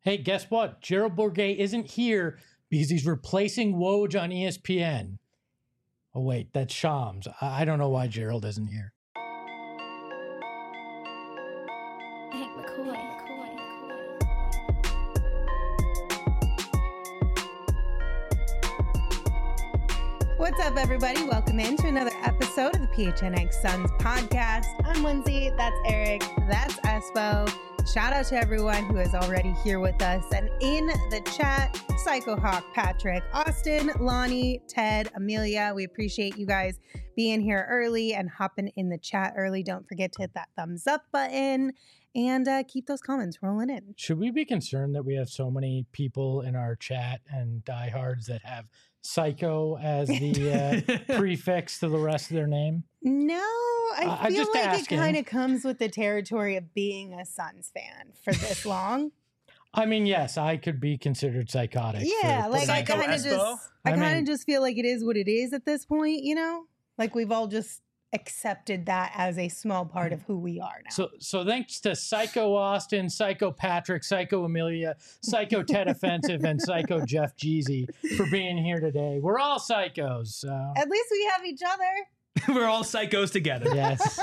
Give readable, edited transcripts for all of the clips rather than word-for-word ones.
Hey, guess what? Gerald Bourguet isn't here because he's replacing Woj on ESPN. Oh, wait, that's Shams. I don't know why Gerald isn't here. Hank McCoy. What's up, everybody? Welcome in to another episode of the PHNX Suns podcast. I'm Lindsay. That's Eric. That's Espo. Shout out to everyone who is already here with us. And in the chat, Psycho Hawk, Patrick, Austin, Lonnie, Ted, Amelia. We appreciate you guys being here early and hopping in the chat early. Don't forget to hit that thumbs up button and keep those comments rolling in. Should we be concerned that we have so many people in our chat and diehards that have Psycho as the prefix to the rest of their name? No, I feel just like asking. it kind of comes with the territory of being a Suns fan for this long. I mean, yes, I could be considered psychotic. Yeah, for like I putting- kind of just, I kind of just feel like it is what it is at this point, you know? Like we've all just accepted that as a small part of who we are now. So thanks to Psycho Austin, Psycho Patrick, Psycho Amelia, Psycho Ted Offensive, and Psycho Jeff Jeezy for being here today. We're all psychos. So. At least we have each other. We're all psychos together. Yes.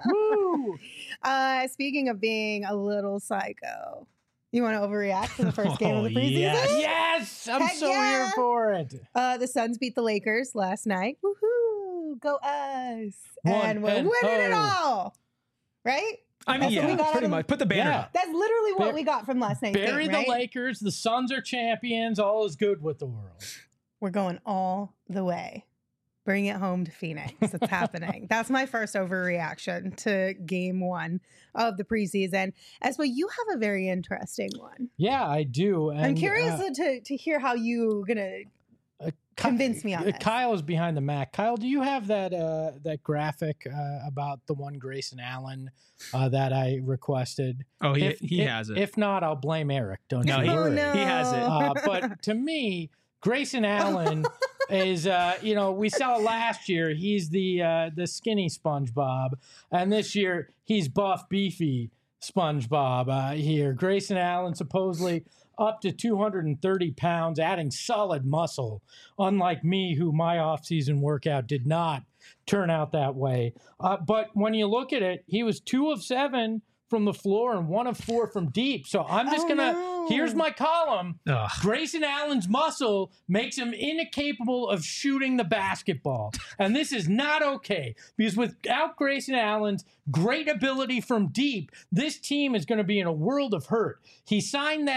Woo! Speaking of being a little psycho, you want to overreact to the first game of the preseason? Yes! I'm Heck so yeah! here for it. The Suns beat the Lakers last night. Woohoo! Go us! And we're winning it all. Right? I mean, That's what we yeah, got pretty out of- much. Put the banner Yeah. up. That's literally what we got from last night's Bury game, the right? Lakers. The Suns are champions. All is good with the world. We're going all the way. Bring it home to Phoenix. It's happening. That's my first overreaction to game one of the preseason. Espo, you have a very interesting one. Yeah, I do. And, I'm curious to hear how you're going to convince me on this. Kyle is behind the Mac. Kyle, do you have that that graphic about the one Grayson Allen that I requested? Oh, he has it. If not, I'll blame Eric. Don't No, you he- worry. no. he has it. But to me, Grayson Allen is, we saw last year, he's the skinny SpongeBob. And this year, he's buff, beefy SpongeBob here. Grayson Allen supposedly up to 230 pounds, adding solid muscle, unlike me, who my offseason workout did not turn out that way. But when you look at it, he was 2 of 7 from the floor and 1 of 4 from deep. So I'm just here's my column. Ugh. Grayson Allen's muscle makes him incapable of shooting the basketball. And this is not okay, because without Grayson Allen's great ability from deep, this team is going to be in a world of hurt. He signed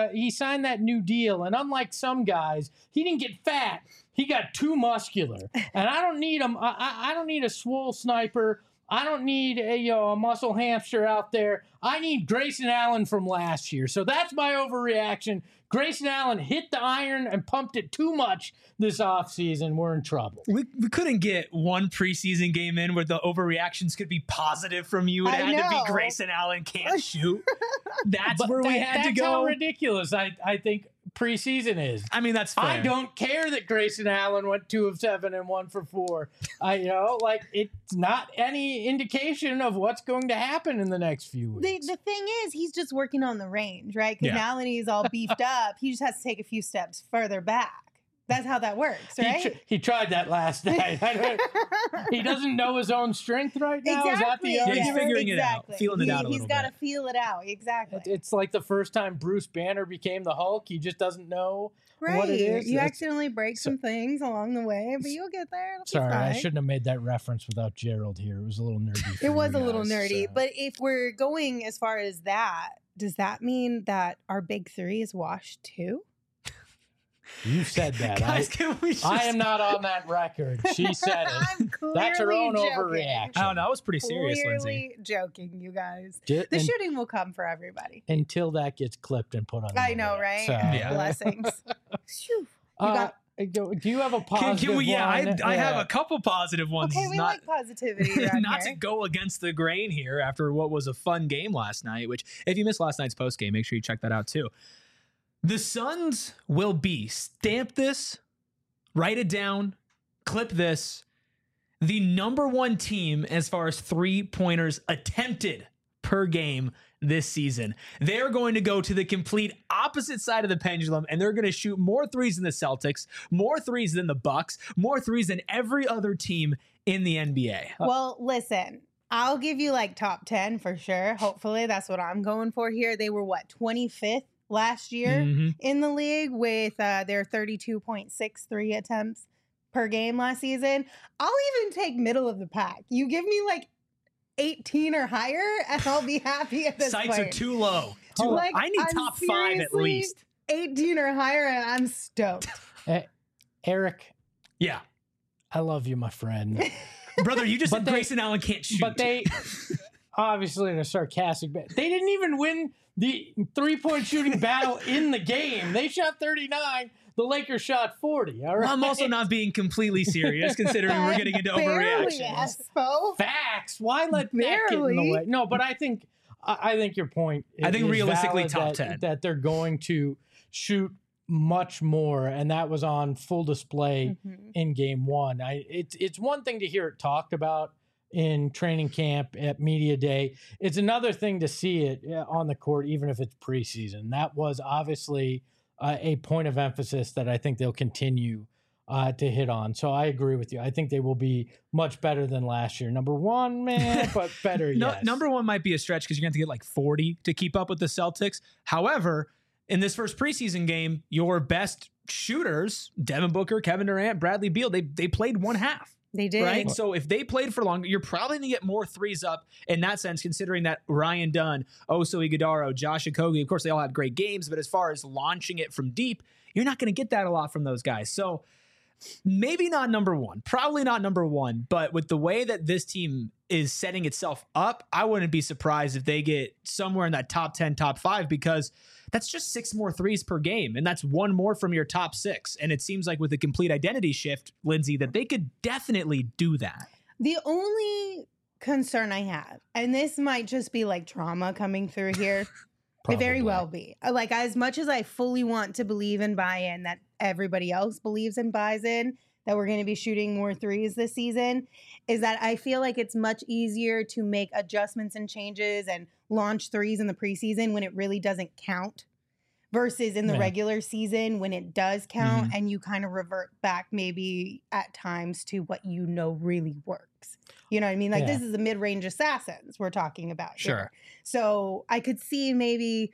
that new deal, and unlike some guys, he didn't get fat. He got too muscular. And I don't need him. I don't need a swole sniper. I don't need a muscle hamster out there. I need Grayson Allen from last year. So that's my overreaction. Grayson Allen hit the iron and pumped it too much this offseason. We're in trouble. We couldn't get one preseason game in where the overreactions could be positive from you. It I had to know. be Grayson Allen can't shoot. That's But where we had to that's go. how ridiculous I think preseason is. I mean, that's fair. I don't care that Grayson Allen went 2 of 7 and 1 for 4. It's not any indication of what's going to happen in the next few weeks. The thing is, he's just working on the range, right? Because Yeah. now that he's all beefed up, he just has to take a few steps further back. That's how that works, right? He tried that last night. He doesn't know his own strength right now. Is that the Yeah, he's argument? figuring it out, feeling it out a He's little got to bit. feel it out. Exactly. It's like the first time Bruce Banner became the Hulk. He just doesn't know right. what it is. You That's- accidentally break some things along the way, but you'll get there. It'll be Sorry, I fine. shouldn't have made that reference without Gerald here. It was a little nerdy. for It was you a little guys, nerdy, so. but if we're going as far as that, does that mean that our big three is washed too? You said that. Guys, can we just... I am not on that record. She said it. I'm clearly That's her own joking. overreaction. I don't know. That was pretty serious, Lindsay. Clearly joking, you guys. Ju- The and- shooting will come for everybody. until that gets clipped and put on. the I know, internet. right? So, Yeah. Blessings. Phew. You uh, got- do you have a positive Can we? Yeah, one? I have a couple positive ones. Okay, we not, like positivity around not to here. go against the grain here after what was a fun game last night, which if you missed last night's post game, make sure you check that out too. The Suns will be, stamp this, write it down, clip this, the number one team as far as 3-pointers attempted per game this season. They're going to go to the complete opposite side of the pendulum, and they're going to shoot more threes than the Celtics, more threes than the Bucks, more threes than every other team in the NBA. Well, listen, I'll give you like top 10 for sure. Hopefully that's what I'm going for here. They were 25th last year in the league with their 32.63 attempts per game last season. I'll even take middle of the pack. You give me like 18 or higher, and I'll be happy at this Sights point. are too low. Like, I need I'm top 5 at seriously least. 18 or higher, and I'm stoked. Eric, Yeah. I love you, my friend. Brother, you just But said they- Grayson Allen can't shoot. But they, obviously in a sarcastic bit, they didn't even win the 3-point shooting battle in the game. They shot 39. The Lakers shot 40. All right. I'm also not being completely serious, considering we're getting into Barely, overreactions. Espo. Facts. Why let that get in the Barely. way? No, but I think your point. I think is realistically valid top 10. that they're going to shoot much more, and that was on full display in game one. It's one thing to hear it talked about in training camp at media day. It's another thing to see it on the court, even if it's preseason. That was obviously a point of emphasis that I think they'll continue to hit on. So I agree with you. I think they will be much better than last year. Number one, man, but better, yes. Number one might be a stretch because you're going to have to get like 40 to keep up with the Celtics. However, in this first preseason game, your best shooters, Devin Booker, Kevin Durant, Bradley Beal, they played one half. They did. Right. So if they played for longer, you're probably going to get more threes up in that sense, considering that Ryan Dunn, Oso Ighodaro, Josh Okogie, of course, they all had great games. But as far as launching it from deep, you're not going to get that a lot from those guys. So maybe not number one, probably not number one. But with the way that this team is setting itself up, I wouldn't be surprised if they get somewhere in that top 10, top 5, because that's just 6 more threes per game. And that's 1 more from your top 6. And it seems like with a complete identity shift, Lindsay, that they could definitely do that. The only concern I have, and this might just be like trauma coming through here, it very well be. Like, as much as I fully want to believe and buy in that everybody else believes and buys in, that we're going to be shooting more threes this season, is that I feel like it's much easier to make adjustments and changes and launch threes in the preseason when it really doesn't count versus in the regular season when it does count and you kind of revert back maybe at times to what you know really works. You know what I mean? Like, this is the mid-range assassins we're talking about. Sure. Here. So I could see maybe,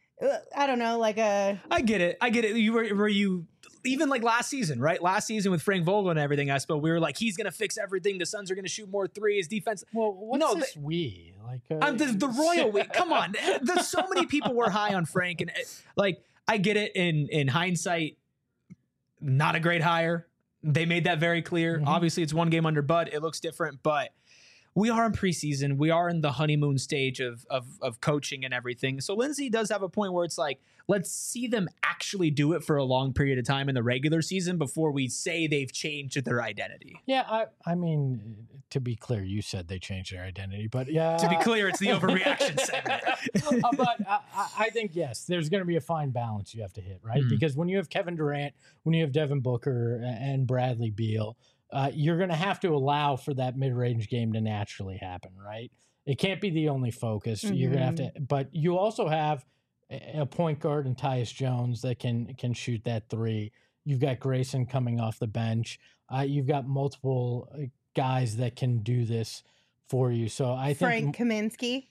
I don't know, like a... I get it. Were you even like last season, right? Last season with Frank Vogel and everything, I suppose we were like, he's going to fix everything. The Suns are going to shoot more threes. Defense. Well, what's this we? Like the royal we. Come on. There's so many people were high on Frank, and like, I get it in hindsight, not a great hire. They made that very clear. Obviously, it's 1 game under Bud. It looks different, but we are in preseason. We are in the honeymoon stage of coaching and everything. So Lindsay does have a point where it's like, let's see them actually do it for a long period of time in the regular season before we say they've changed their identity. Yeah, I mean, to be clear, you said they changed their identity, but yeah. To be clear, it's the overreaction segment. But I think, yes, there's going to be a fine balance you have to hit, right? Because when you have Kevin Durant, when you have Devin Booker and Bradley Beal, you're going to have to allow for that mid-range game to naturally happen, right? It can't be the only focus. You're going to have to, but you also have a point guard in Tyus Jones that can shoot that 3. You've got Grayson coming off the bench. You've got multiple guys that can do this for you. So I think Frank Kaminsky.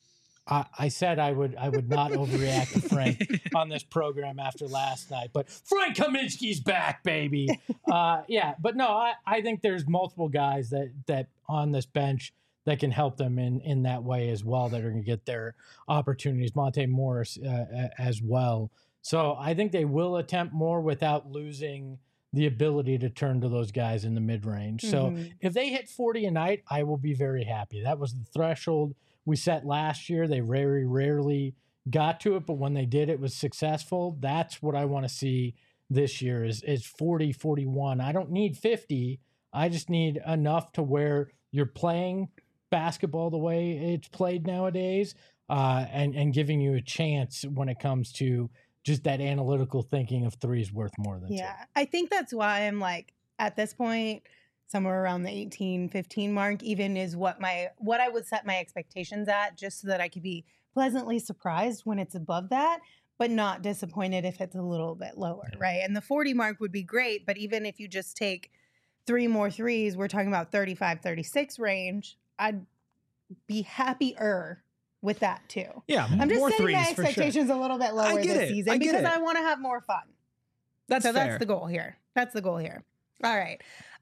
I said I would not overreact to Frank on this program after last night, but Frank Kaminsky's back, baby. Yeah, but no, I think there's multiple guys that on this bench that can help them in that way as well, that are going to get their opportunities. Monte Morris as well. So I think they will attempt more without losing the ability to turn to those guys in the mid-range. So if they hit 40 a night, I will be very happy. That was the threshold we set last year. They very rarely got to it, but when they did, it was successful. That's what I want to see this year is 40, 41. I don't need 50. I just need enough to where you're playing basketball the way it's played nowadays, and giving you a chance when it comes to just that analytical thinking of 3 is worth more than 2. I think that's why I'm like, at this point, somewhere around the 18, 15 mark even is what I would set my expectations at, just so that I could be pleasantly surprised when it's above that, but not disappointed if it's a little bit lower, right? And the 40 mark would be great, but even if you just take 3 more threes, we're talking about 35, 36 range. I'd be happier with that too. Yeah, I'm just more setting my threes for sure. expectations a little bit lower this season because I want to have more fun. That's so fair. that's the goal here. That's the goal here. All right.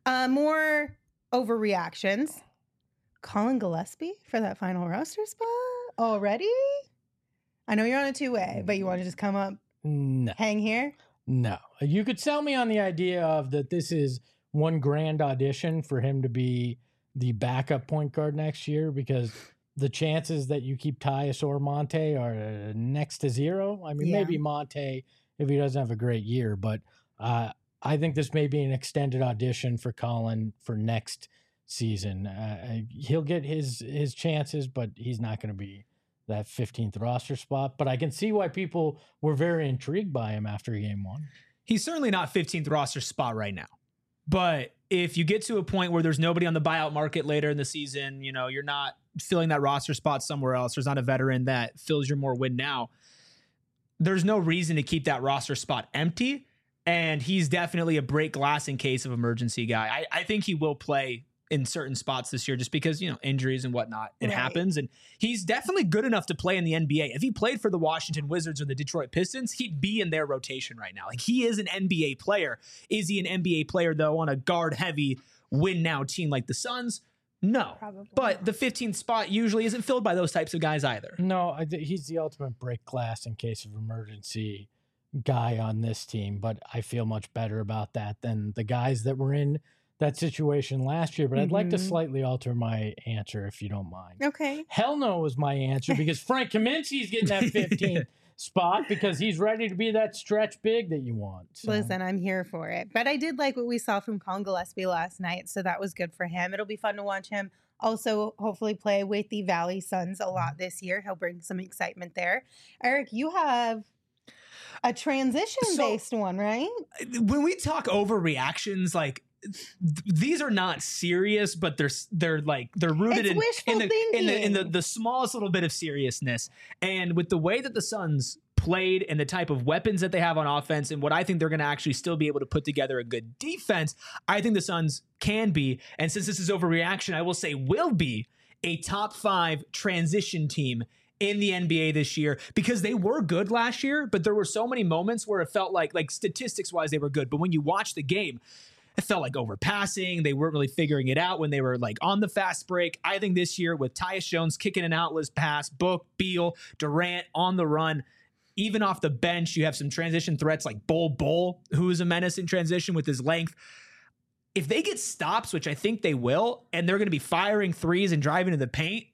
More overreactions. Colin Gillespie for that final roster spot already? I know you're on a 2-way, but you want to just come up, hang here? No. You could sell me on the idea of that this is one grand audition for him to be the backup point guard next year, because the chances that you keep Tyus or Monte are next to zero. I mean, maybe Monte if he doesn't have a great year, but I think this may be an extended audition for Colin for next season. He'll get his chances, but he's not going to be that 15th roster spot. But I can see why people were very intrigued by him after game one. He's certainly not 15th roster spot right now. But if you get to a point where there's nobody on the buyout market later in the season, you know, you're not filling that roster spot somewhere else, there's not a veteran that fills your more win now, there's no reason to keep that roster spot empty. And he's definitely a break glass in case of emergency guy. I think he will play in certain spots this year just because, you know, injuries and whatnot. It happens. And he's definitely good enough to play in the NBA. If he played for the Washington Wizards or the Detroit Pistons, he'd be in their rotation right now. Like, he is an NBA player. Is he an NBA player, though, on a guard-heavy win-now team like the Suns? No. Probably but not. the 15th spot usually isn't filled by those types of guys either. No, he's the ultimate break glass in case of emergency guy on this team, but I feel much better about that than the guys that were in that situation last year. But I'd like to slightly alter my answer if you don't mind. Okay. Hell no was my answer, because Frank Kaminsky's getting that 15th spot because he's ready to be that stretch big that you want. So. Listen, I'm here for it. But I did like what we saw from Colin Gillespie last night, so that was good for him. It'll be fun to watch him also hopefully play with the Valley Suns a lot this year. He'll bring some excitement there. Eric, you have a transition-based one, right? When we talk overreactions, like, these are not serious, but they're rooted It's wishful in the smallest little bit of seriousness. And with the way that the Suns played and the type of weapons that they have on offense and what I think they're going to actually still be able to put together a good defense, I think the Suns can be, and since this is overreaction, I will say will be a top 5 transition team in the NBA this year, because they were good last year, but there were so many moments where it felt like statistics wise they were good, but when you watch the game, it felt like overpassing. They weren't really figuring it out when they were like on the fast break. I think this year with Tyus Jones kicking an outless pass, Book, Beal, Durant on the run, even off the bench, you have some transition threats like Bol, who is a menace in transition with his length. If they get stops, which I think they will, and they're going to be firing threes and driving to the paint,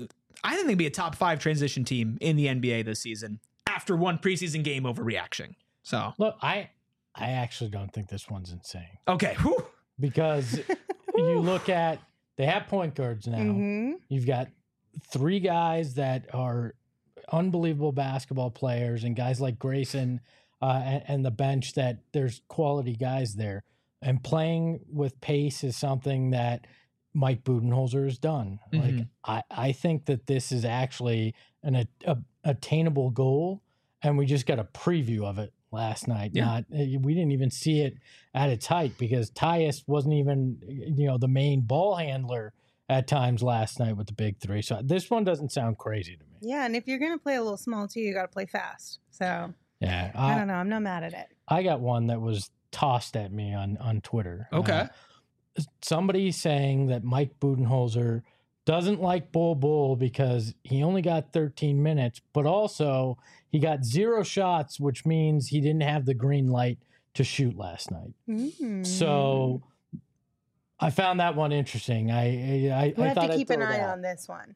I think they'd be a top 5 transition team in the NBA this season after one preseason game overreaction. So Look, I actually don't think this one's insane. Okay. Whew. Because you look at, they have point guards now. You've got 3 guys that are unbelievable basketball players, and guys like Grayson and the bench, that there's quality guys there. And playing with pace is something that Mike Budenholzer has done. Like, I think that this is actually an attainable goal, and we just got a preview of it last night. We didn't even see it at its height, because Tyus wasn't even, the main ball handler at times last night with the big 3. So this one doesn't sound crazy to me. Yeah, and if you're going to play a little small too, you got to play fast. So Yeah, I don't know. I'm not mad at it. I got one that was tossed at me on Twitter. Okay. Somebody saying that Mike Budenholzer doesn't like Bol because he only got 13 minutes, but also he got 0 shots, which means he didn't have the green light to shoot last night. So I found that one interesting. I We have thought to I'd keep an throw it eye out. on this one.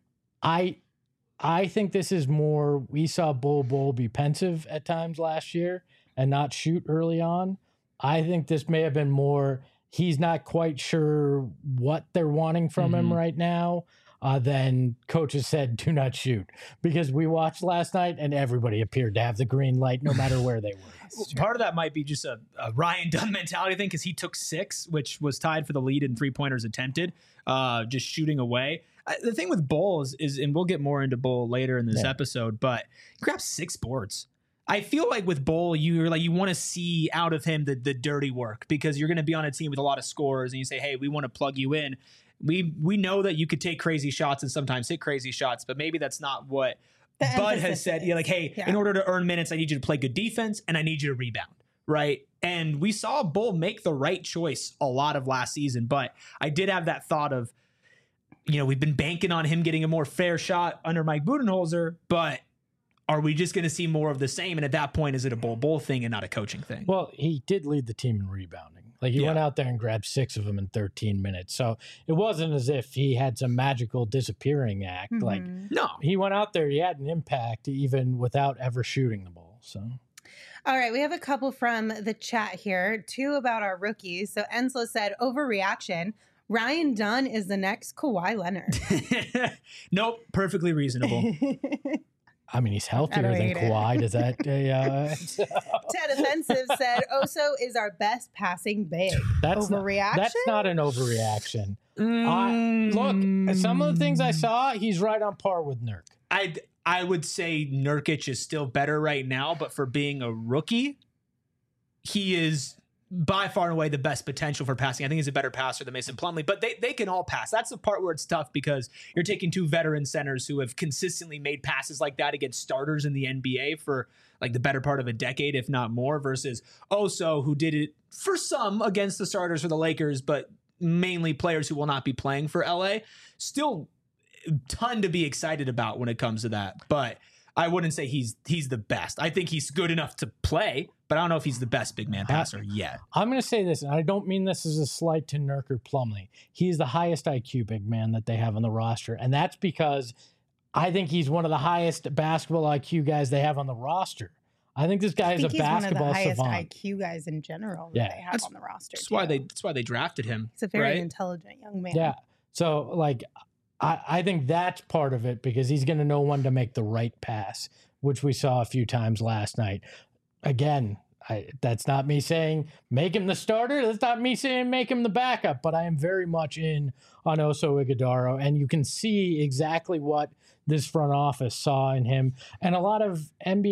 I think this is more, we saw Bol be pensive at times last year and not shoot early on. I think this may have been more, he's not quite sure what they're wanting from him right now. Then coaches said, do not shoot. Because we watched last night and everybody appeared to have the green light no matter where they were. Part of that might be just a Ryan Dunn mentality thing, because he took 6, which was tied for the lead in 3-pointers attempted, just shooting away. The thing with Bull is, and we'll get more into Bull later in this Yeah. episode, but he grabbed 6 boards. I feel like with Bull, you want to see out of him the dirty work, because you're going to be on a team with a lot of scorers, and you say, hey, we want to plug you in. We know that you could take crazy shots and sometimes hit crazy shots, but maybe that's not what The Bud has emphasis said. is. Yeah, like, hey, Yeah. in order to earn minutes, I need you to play good defense and I need you to rebound, right? And we saw Bull make the right choice a lot of last season, but I did have that thought of, we've been banking on him getting a more fair shot under Mike Budenholzer, but are we just going to see more of the same? And at that point, is it a Bull thing and not a coaching thing? Well, he did lead the team in rebounding. Like he went out there and grabbed 6 of them in 13 minutes. So it wasn't as if he had some magical disappearing act. Like No. he went out there, he had an impact even without ever shooting the ball. So All right, we have a couple from the chat here, 2 about our rookies. So Ensla said, overreaction. Ryan Dunn is the next Kawhi Leonard. Nope. Perfectly reasonable. I mean, he's I healthier don't than hate it. Kawhi. Does that? Ted Offensive said, Oso is our best passing big. That's Overreaction? That's not an overreaction. Look, some of the things I saw, he's right on par with Nurk. I would say Nurkic is still better right now, but for being a rookie, he is by far and away the best potential for passing. I think he's a better passer than Mason Plumlee, but they can all pass. That's the part where it's tough, because you're taking 2 veteran centers who have consistently made passes like that against starters in the NBA for like the better part of a decade, if not more, versus Oso, who did it for some against the starters for the Lakers, but mainly players who will not be playing for LA. Still a ton to be excited about when it comes to that, but I wouldn't say he's the best. I think he's good enough to play, but I don't know if he's the best big man passer yet. I'm going to say this, and I don't mean this as a slight to Nurk or Plumlee. He's the highest IQ big man that they have on the roster, and that's because I think he's one of the highest basketball IQ guys they have on the roster. I think this guy is a basketball he's one of the savant. highest IQ guys in general Yeah. that they have on the roster. That's why they drafted him. He's a very right? intelligent young man. Yeah. So, like, I think that's part of it, because he's going to know when to make the right pass, which we saw a few times last night. Again, that's not me saying make him the starter. That's not me saying make him the backup, but I am very much in on Oso Ighodaro, and you can see exactly what this front office saw in him, and a lot of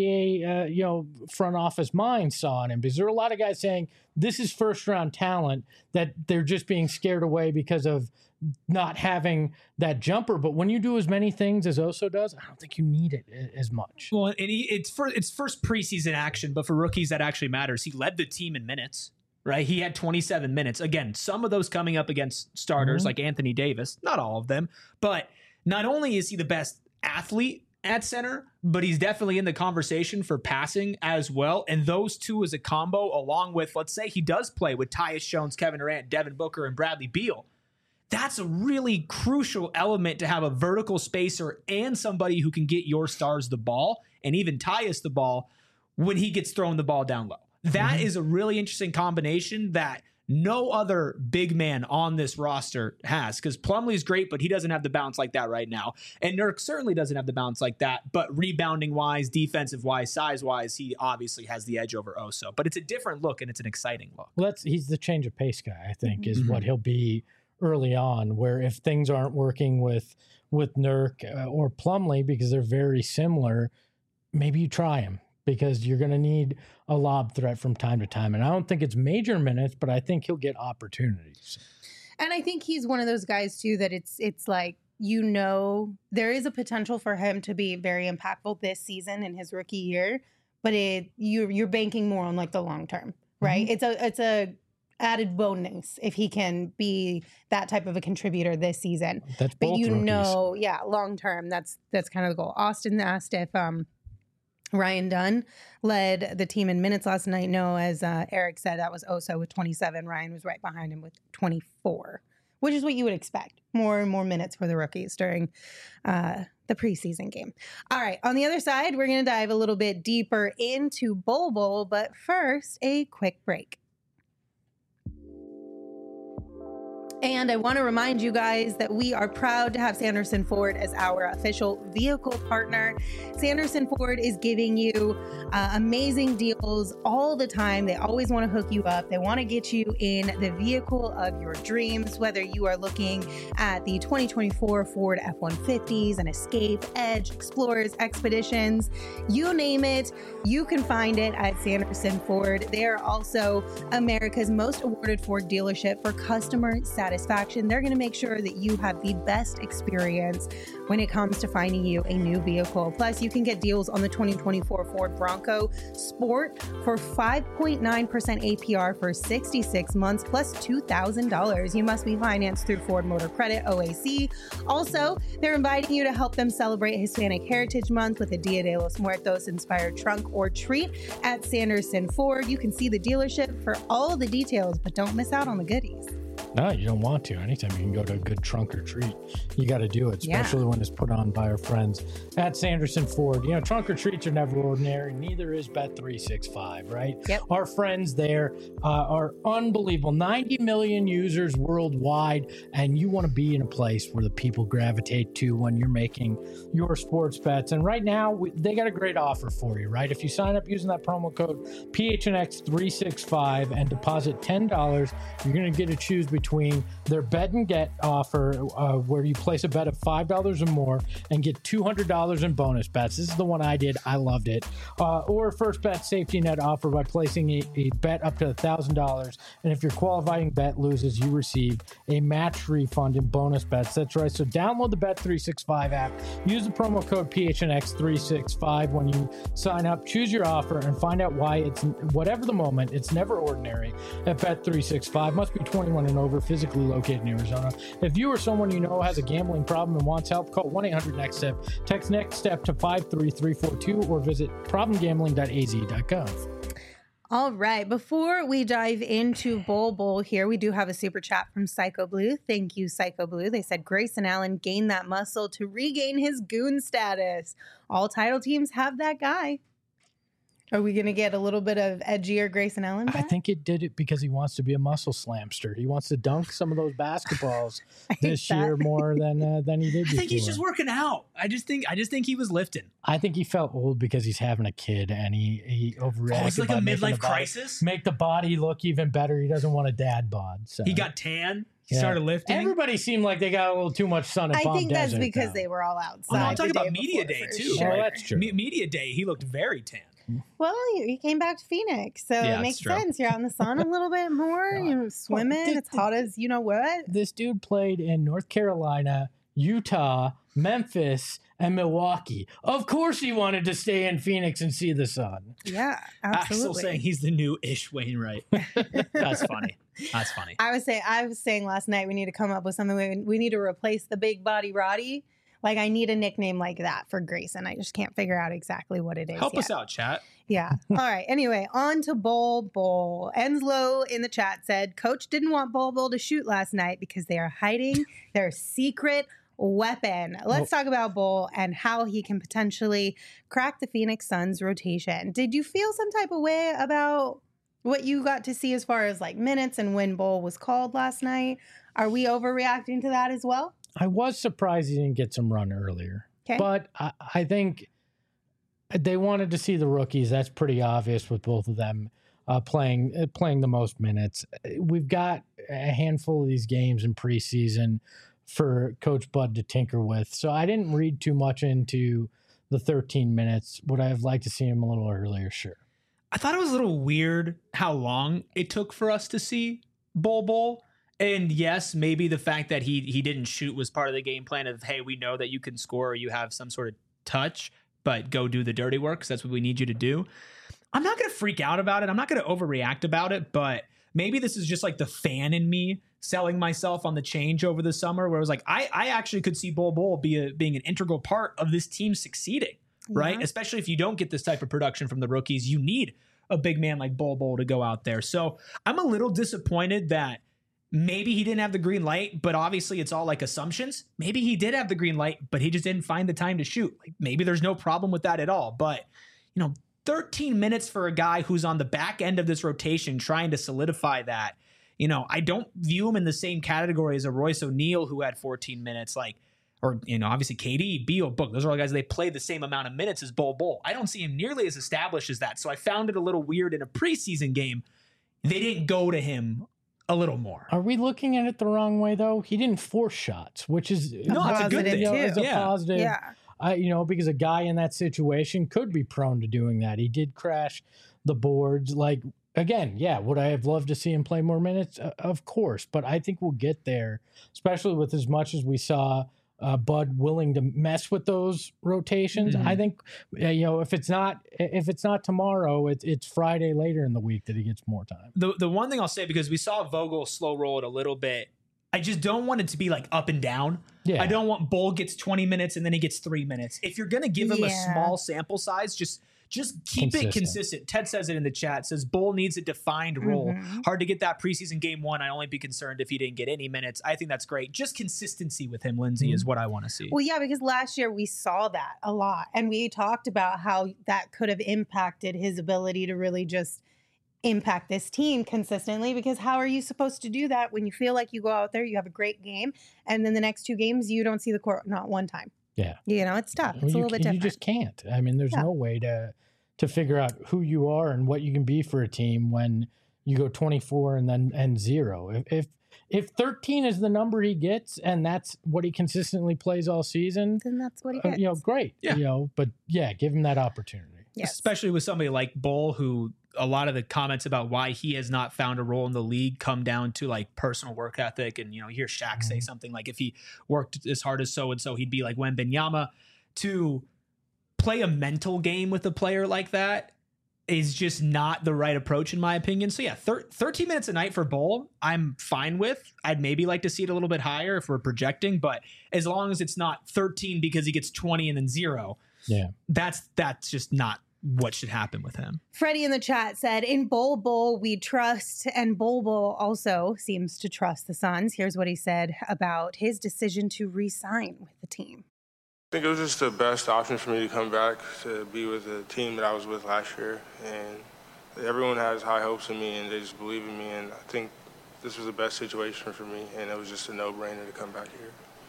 NBA, front office minds saw in him, because there are a lot of guys saying this is first round talent that they're just being scared away because of not having that jumper. But when you do as many things as Oso does, I don't think you need it as much. Well, and it's first preseason action, but for rookies that actually matters. He led the team in minutes, right? He had 27 minutes. Again, some of those coming up against starters like Anthony Davis, not all of them, but not only is he the best athlete at center, but he's definitely in the conversation for passing as well. And those two as a combo, along with, let's say he does play with Tyus Jones, Kevin Durant, Devin Booker, and Bradley Beal. That's a really crucial element to have a vertical spacer and somebody who can get your stars the ball, and even Tyus the ball when he gets thrown the ball down low. That is a really interesting combination that no other big man on this roster has, because Plumlee's great, but he doesn't have the bounce like that right now. And Nurk certainly doesn't have the bounce like that, but rebounding wise, defensive wise, size wise, he obviously has the edge over Oso. But it's a different look, and it's an exciting look. Well, he's the change of pace guy, I think, is what he'll be early on, where if things aren't working with Nurk or Plumlee, because they're very similar, maybe you try him, because you're going to need a lob threat from time to time. And I don't think it's major minutes, but I think he'll get opportunities. And I think he's one of those guys too that it's like, there is a potential for him to be very impactful this season in his rookie year, but you're banking more on like the long term, right? It's a added bonus if he can be that type of a contributor this season. That's But both rookies. long term, that's kind of the goal. Austin asked if Ryan Dunn led the team in minutes last night. No, as Eric said, that was Oso with 27. Ryan was right behind him with 24, which is what you would expect. More and more minutes for the rookies during the preseason game. All right, on the other side, we're going to dive a little bit deeper into Bol Bol, but first, a quick break. And I want to remind you guys that we are proud to have Sanderson Ford as our official vehicle partner. Sanderson Ford is giving you amazing deals all the time. They always want to hook you up. They want to get you in the vehicle of your dreams, whether you are looking at the 2024 Ford F-150s, an Escape, Edge, Explorers, Expeditions, you name it, you can find it at Sanderson Ford. They are also America's most awarded Ford dealership for customer satisfaction. They're going to make sure that you have the best experience when it comes to finding you a new vehicle. Plus, you can get deals on the 2024 Ford Bronco Sport for 5.9% APR for 66 months plus $2,000. You must be financed through Ford Motor Credit, OAC. Also, they're inviting you to help them celebrate Hispanic Heritage Month with a Dia de los Muertos inspired trunk or treat at Sanderson Ford. You can see the dealership for all the details, but don't miss out on the goodies. No, you don't want to. Anytime you can go to a good trunk or treat, you got to do it, especially when it's put on by our friends at Sanderson Ford. You know, trunk or treats are never ordinary. Neither is Bet365, right? Yep. Our friends there are unbelievable. 90 million users worldwide, and you want to be in a place where the people gravitate to when you're making your sports bets. And right now, they got a great offer for you, right? If you sign up using that promo code PHNX365 and deposit $10, you're going to get to choose between their bet and get offer where you place a bet of $5 or more and get $200 in bonus bets. This is the one I did. I loved it. Or first bet safety net offer by placing a bet up to $1,000. And if your qualifying bet loses, you receive a match refund in bonus bets. That's right. So download the Bet365 app. Use the promo code PHNX365 when you sign up. Choose your offer and find out why it's whatever the moment. It's never ordinary at Bet365. Must be 21 and over, physically located in Arizona. If you or someone you know has a gambling problem and wants help, call 1-800-NEXT-STEP. Text NEXT STEP to 53342 or visit problemgambling.az.gov. All right. Before we dive into Bowl here, we do have a super chat from Psycho Blue. Thank you, Psycho Blue. They said Grayson Allen gained that muscle to regain his goon status. All title teams have that guy. Are we going to get a little bit of edgier Grayson Allen back? I think it did it because he wants to be a muscle slamster. He wants to dunk some of those basketballs this year more than he did before. I think he's just working out. I just think he was lifting. I think he felt old because he's having a kid and he overreacted. Oh, it's like a midlife crisis? Make the body look even better. He doesn't want a dad bod. So. He got tan. He started lifting. Everybody seemed like they got a little too much sun at Palm I think Desert, that's because they were all outside. Oh, no, I'm talking about Media Day, too. Sure. Oh, that's true. Media Day, he looked very tan. Well, he came back to Phoenix, so it makes sense. You're out in the sun a little bit more. You're swimming. It's hot as you know what. This dude played in North Carolina, Utah, Memphis, and Milwaukee. Of course he wanted to stay in Phoenix and see the sun. Yeah, absolutely. Axel saying he's the new Ish Wainwright. That's funny. That's funny. I was saying last night we need to come up with something. We need to replace the big body Roddy. Like, I need a nickname like that for Grayson. I just can't figure out exactly what it is. Help us out, chat. Yeah. All right. Anyway, on to Bowl. Enslow in the chat said, Coach didn't want Bowl to shoot last night because they are hiding their secret weapon. Let's talk about Bowl and how he can potentially crack the Phoenix Suns rotation. Did you feel some type of way about what you got to see as far as like minutes and when Bowl was called last night? Are we overreacting to that as well? I was surprised he didn't get some run earlier. Okay. But I think they wanted to see the rookies. That's pretty obvious with both of them playing the most minutes. We've got a handful of these games in preseason for Coach Bud to tinker with. So I didn't read too much into the 13 minutes. Would I have liked to see him a little earlier? Sure. I thought it was a little weird how long it took for us to see Bowl. And yes, maybe the fact that he didn't shoot was part of the game plan of, hey, we know that you can score or you have some sort of touch, but go do the dirty work because that's what we need you to do. I'm not going to freak out about it. I'm not going to overreact about it, but maybe this is just like the fan in me selling myself on the change over the summer where it was like, I actually could see Bowl being an integral part of this team succeeding, right? Especially if you don't get this type of production from the rookies, you need a big man like Bowl to go out there. So I'm a little disappointed that maybe he didn't have the green light, but obviously it's all like assumptions. Maybe he did have the green light, but he just didn't find the time to shoot. Like maybe there's no problem with that at all. But, 13 minutes for a guy who's on the back end of this rotation trying to solidify that I don't view him in the same category as a Royce O'Neal who had 14 minutes, or obviously KD, Beal, Book. Those are all guys they play the same amount of minutes as Bol. I don't see him nearly as established as that. So I found it a little weird in a preseason game. They didn't go to him a little more. Are we looking at it the wrong way though? He didn't force shots, which is that's a good thing. It's a positive. Yeah. Because a guy in that situation could be prone to doing that. He did crash the boards. Again, would I have loved to see him play more minutes? Of course, but I think we'll get there, especially with as much as we saw Bud willing to mess with those rotations. I think if it's not tomorrow, it's Friday later in the week that he gets more time. The one thing I'll say, because we saw Vogel slow roll it a little bit, I just don't want it to be up and down. Yeah. I don't want Bol gets 20 minutes and then he gets 3 minutes. If you're going to give him a small sample size, just keep it consistent. Ted says it in the chat, says Bol needs a defined role. Hard to get that preseason game 1. I'd only be concerned if he didn't get any minutes. I think that's great. Just consistency with him, Lindsay, is what I want to see. Well, yeah, because last year we saw that a lot. And we talked about how that could have impacted his ability to really just impact this team consistently, because how are you supposed to do that when you feel like you go out there, you have a great game, and then the next 2 games you don't see the court not one time? Yeah. It's tough. It's a little bit different. You just can't. I mean, there's no way to figure out who you are and what you can be for a team when you go 24 and 0. If 13 is the number he gets and that's what he consistently plays all season, then that's what he gets. Great. Yeah. But give him that opportunity. Yes. Especially with somebody like Bol, who a lot of the comments about why he has not found a role in the league come down to personal work ethic. And, you hear Shaq say something like, if he worked as hard as so-and-so, he'd be like Wembanyama. To play a mental game with a player like that is just not the right approach in my opinion. So 13 minutes a night for Bol, I'm fine with. I'd maybe like to see it a little bit higher if we're projecting, but as long as it's not 13 because he gets 20 and then 0, that's just not what should happen with him. Freddie in the chat said, in Bol we trust, and Bol also seems to trust the Suns. Here's what he said about his decision to re-sign with the team. I think it was just the best option for me to come back to be with the team that I was with last year. And everyone has high hopes in me and they just believe in me. And I think this was the best situation for me. And it was just a no-brainer to come back here.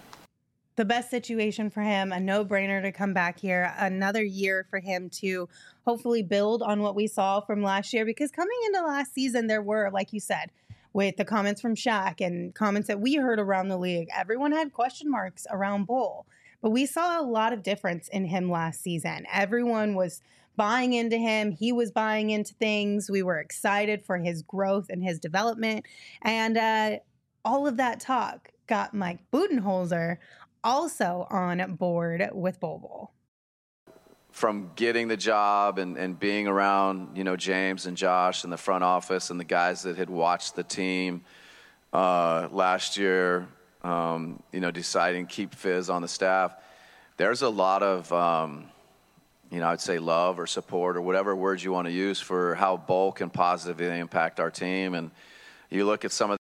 The best situation for him, a no-brainer to come back here. Another year for him to hopefully build on what we saw from last year. Because coming into last season, there were, like you said, with the comments from Shaq and comments that we heard around the league, everyone had question marks around Bol. But we saw a lot of difference in him last season. Everyone was buying into him. He was buying into things. We were excited for his growth and his development. And all of that talk got Mike Budenholzer also on board with Bol. From getting the job and being around, James and Josh in the front office and the guys that had watched the team last year, deciding to keep Fizz on the staff, there's a lot of, I'd say love or support or whatever words you want to use for how Bol can positively impact our team. And you look at some of.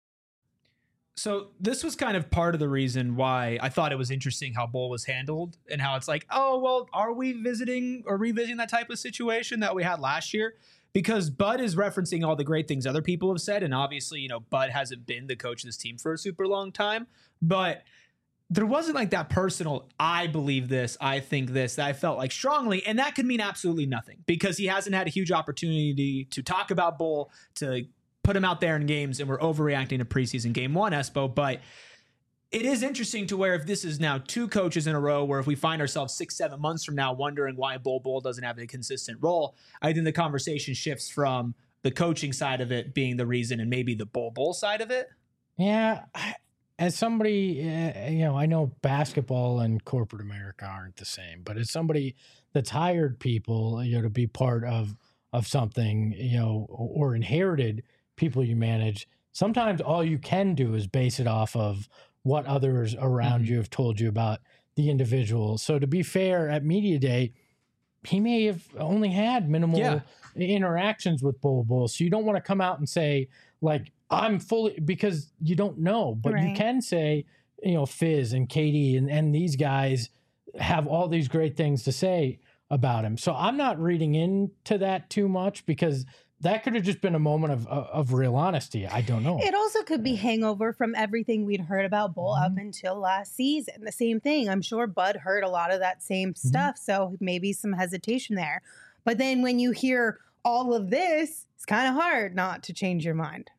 So this was kind of part of the reason why I thought it was interesting how Bol was handled and how it's like, oh, well, are we revisiting that type of situation that we had last year? Because Bud is referencing all the great things other people have said. And obviously, Bud hasn't been the coach of this team for a super long time. But there wasn't that personal, I believe this, I think this, that I felt strongly. And that could mean absolutely nothing because he hasn't had a huge opportunity to talk about Bol, to put him out there in games. And we're overreacting to preseason game 1, Espo. But it is interesting to where if this is now 2 coaches in a row, where if we find ourselves 6-7 months from now wondering why Bol doesn't have a consistent role, I think the conversation shifts from the coaching side of it being the reason and maybe the Bol side of it. Yeah. As somebody, I know basketball and corporate America aren't the same, but as somebody that's hired people, to be part of something, or inherited people you manage, sometimes all you can do is base it off of what others around you have told you about the individual. So to be fair, at Media Day, he may have only had minimal interactions with Bol. So you don't want to come out and say, I'm fully, because you don't know. But you can say, Fizz and KD and these guys have all these great things to say about him. So I'm not reading into that too much because that could have just been a moment of real honesty. I don't know. It also could be hangover from everything we'd heard about Bull up until last season. The same thing. I'm sure Bud heard a lot of that same stuff, so maybe some hesitation there. But then when you hear all of this, it's kind of hard not to change your mind.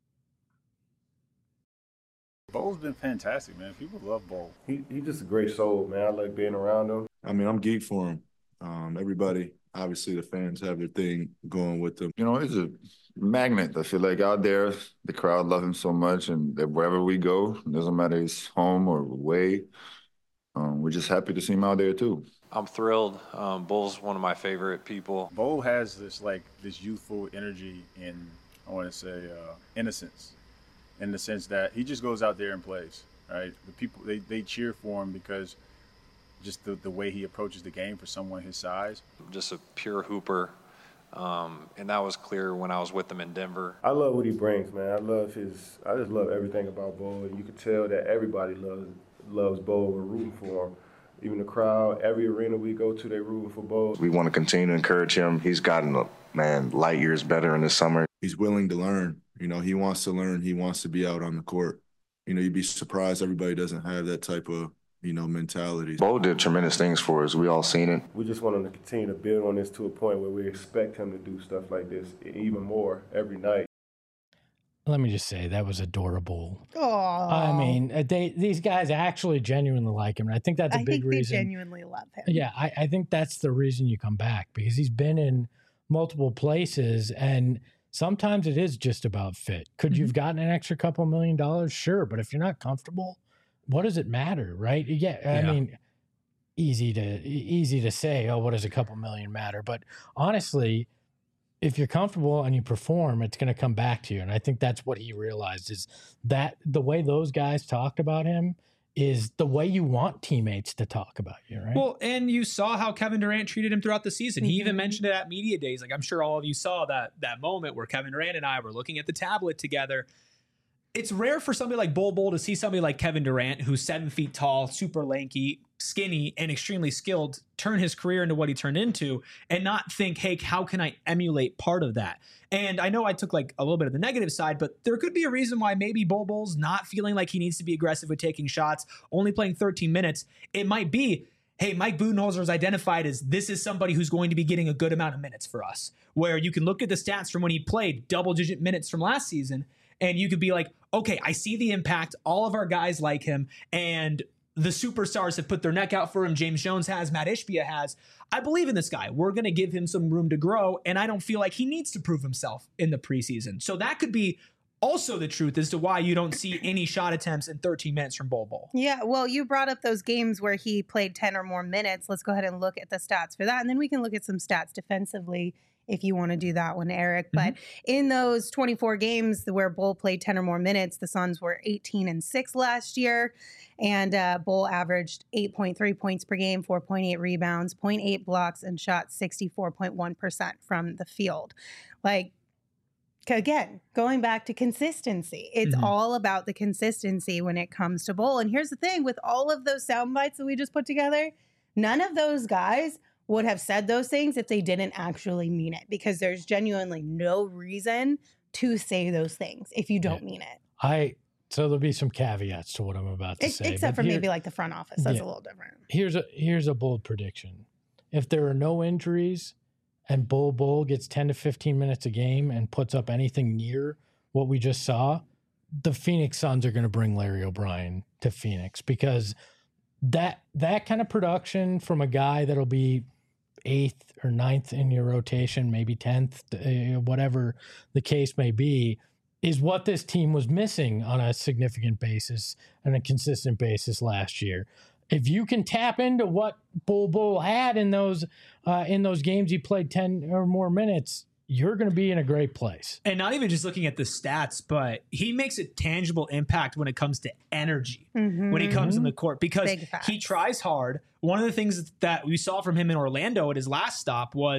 Bull's been fantastic, man. People love Bull. He's just a great soul, man. I like being around him. I mean, I'm geeked for him. Everybody, obviously, the fans have their thing going with them. You know, he's a magnet. I feel like out there, the crowd love him so much, and that wherever we go, it doesn't matter if it's home or away, we're just happy to see him out there too. I'm thrilled. Bull's one of my favorite people. Bull has this youthful energy and I want to say innocence, in the sense that he just goes out there and plays. Right, the people they cheer for him because just the way he approaches the game for someone his size. Just a pure hooper, and that was clear when I was with him in Denver. I love what he brings, man. I just love everything about Bull, and you can tell that everybody loves Bull. We're rooting for him. Even the crowd, every arena we go to, they're rooting for Bull. We want to continue to encourage him. He's gotten, light years better in the summer. He's willing to learn. You know, he wants to learn. He wants to be out on the court. You know, you'd be surprised everybody doesn't have that type of, mentality. Bull did tremendous things for us. We all seen it. We just want him to continue to build on this to a point where we expect him to do stuff like this even more every night. Let me just say that was adorable. Aww. I mean, these guys actually genuinely like him. And I think that's a big reason. They genuinely love him. Yeah, I think that's the reason you come back, because he's been in multiple places, and sometimes it is just about fit. Could you've gotten an extra couple $1 million? Sure, but if you're not comfortable, what does it matter, right? Yeah, I mean, easy to say, oh, what does a couple million matter? But honestly, if you're comfortable and you perform, it's going to come back to you. And I think that's what he realized, is that the way those guys talked about him is the way you want teammates to talk about you, right? Well, and you saw how Kevin Durant treated him throughout the season. He even mentioned it at media days. Like, I'm sure all of you saw that moment where Kevin Durant and I were looking at the tablet together. It's rare for somebody like Bull to see somebody like Kevin Durant, who's 7 feet tall, super lanky, skinny, and extremely skilled, turn his career into what he turned into, and not think, hey, how can I emulate part of that? And I know I took a little bit of the negative side, but there could be a reason why maybe Bull's not feeling like he needs to be aggressive with taking shots, only playing 13 minutes. It might be, hey, Mike Budenholzer is identified as this is somebody who's going to be getting a good amount of minutes for us, where you can look at the stats from when he played double-digit minutes from last season, and you could be like, okay, I see the impact. All of our guys like him, and the superstars have put their neck out for him. James Jones has, Matt Ishbia has. I believe in this guy. We're going to give him some room to grow, and I don't feel like he needs to prove himself in the preseason. So that could be also the truth as to why you don't see any shot attempts in 13 minutes from Bull. Yeah, well, you brought up those games where he played 10 or more minutes. Let's go ahead and look at the stats for that, and then we can look at some stats defensively if you want to do that one, Eric. But in those 24 games where Bull played 10 or more minutes, the Suns were 18-6 last year. And Bull averaged 8.3 points per game, 4.8 rebounds, 0.8 blocks, and shot 64.1% from the field. Again, going back to consistency. It's all about the consistency when it comes to Bull. And here's the thing, with all of those sound bites that we just put together, none of those guys would have said those things if they didn't actually mean it, because there's genuinely no reason to say those things if you don't mean it. So there'll be some caveats to what I'm about to say. Except for maybe the front office. That's a little different. Here's a bold prediction. If there are no injuries and Bull gets 10 to 15 minutes a game and puts up anything near what we just saw, the Phoenix Suns are going to bring Larry O'Brien to Phoenix, because that kind of production from a guy that'll be 8th or 9th in your rotation, maybe 10th, whatever the case may be, is what this team was missing on a significant basis and a consistent basis last year. If you can tap into what Bull had in those games he played 10 or more minutes, you're going to be in a great place. And not even just looking at the stats, but he makes a tangible impact when it comes to energy, when he comes in the court, because he tries hard. One of the things that we saw from him in Orlando at his last stop was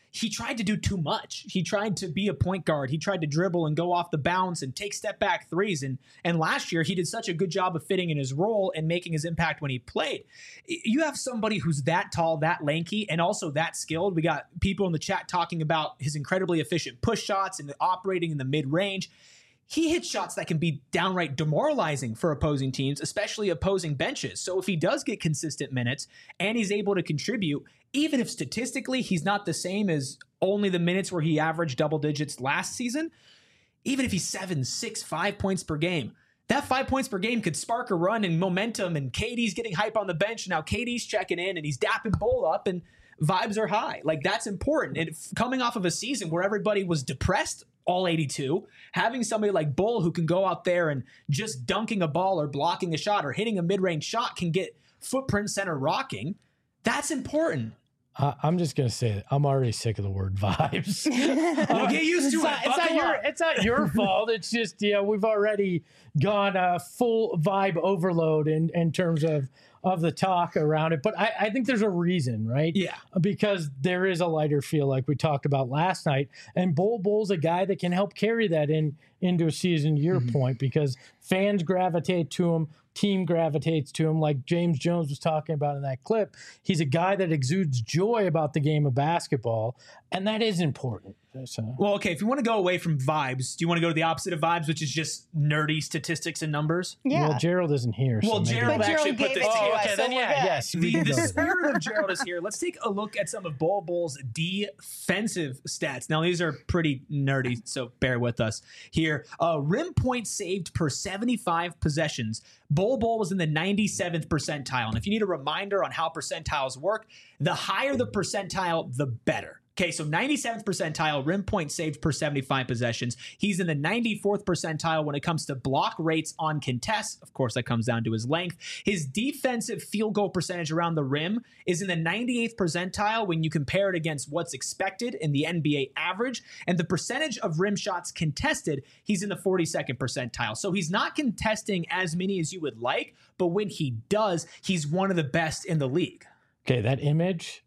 he tried to do too much. He tried to be a point guard. He tried to dribble and go off the bounce and take step back threes. And last year, he did such a good job of fitting in his role and making his impact when he played. You have somebody who's that tall, that lanky, and also that skilled. We got people in the chat talking about his incredibly efficient push shots and operating in the mid-range. He hits shots that can be downright demoralizing for opposing teams, especially opposing benches. So if he does get consistent minutes and he's able to contribute, even if statistically he's not the same as only the minutes where he averaged double digits last season, even if he's 7, 6, 5 points per game, that 5 points per game could spark a run and momentum, and KD's getting hype on the bench. Now KD's checking in and he's dapping Bol up and vibes are high. Like, that's important. And coming off of a season where everybody was depressed all 82, having somebody like Bol who can go out there and just dunking a ball or blocking a shot or hitting a mid-range shot can get footprint center rocking, that's important. I'm just going to say that I'm already sick of the word vibes. Well, get used to it. It's not your fault. It's just, we've already gone full vibe overload in terms of the talk around it. But I think there's a reason, right? Yeah. Because there is a lighter feel like we talked about last night. And Bol's a guy that can help carry that into a season, your point, because fans gravitate to him. Team gravitates to him, like James Jones was talking about in that clip. He's a guy that exudes joy about the game of basketball, and that is important. So. Well, okay, if you want to go away from vibes, do you want to go to the opposite of vibes, which is just nerdy statistics and numbers? Yeah. Well, Gerald isn't here. Well, so Gerald actually put this together. Okay, then yes. The spirit of Gerald is here. Let's take a look at some of Bol's defensive stats. Now, these are pretty nerdy, so bear with us here. Rim points saved per 75 possessions. Bol was in the 97th percentile. And if you need a reminder on how percentiles work, the higher the percentile, the better. Okay, so 97th percentile, rim point saved per 75 possessions. He's in the 94th percentile when it comes to block rates on contests. Of course, that comes down to his length. His defensive field goal percentage around the rim is in the 98th percentile when you compare it against what's expected in the NBA average. And the percentage of rim shots contested, he's in the 42nd percentile. So he's not contesting as many as you would like, but when he does, he's one of the best in the league. Okay, that image...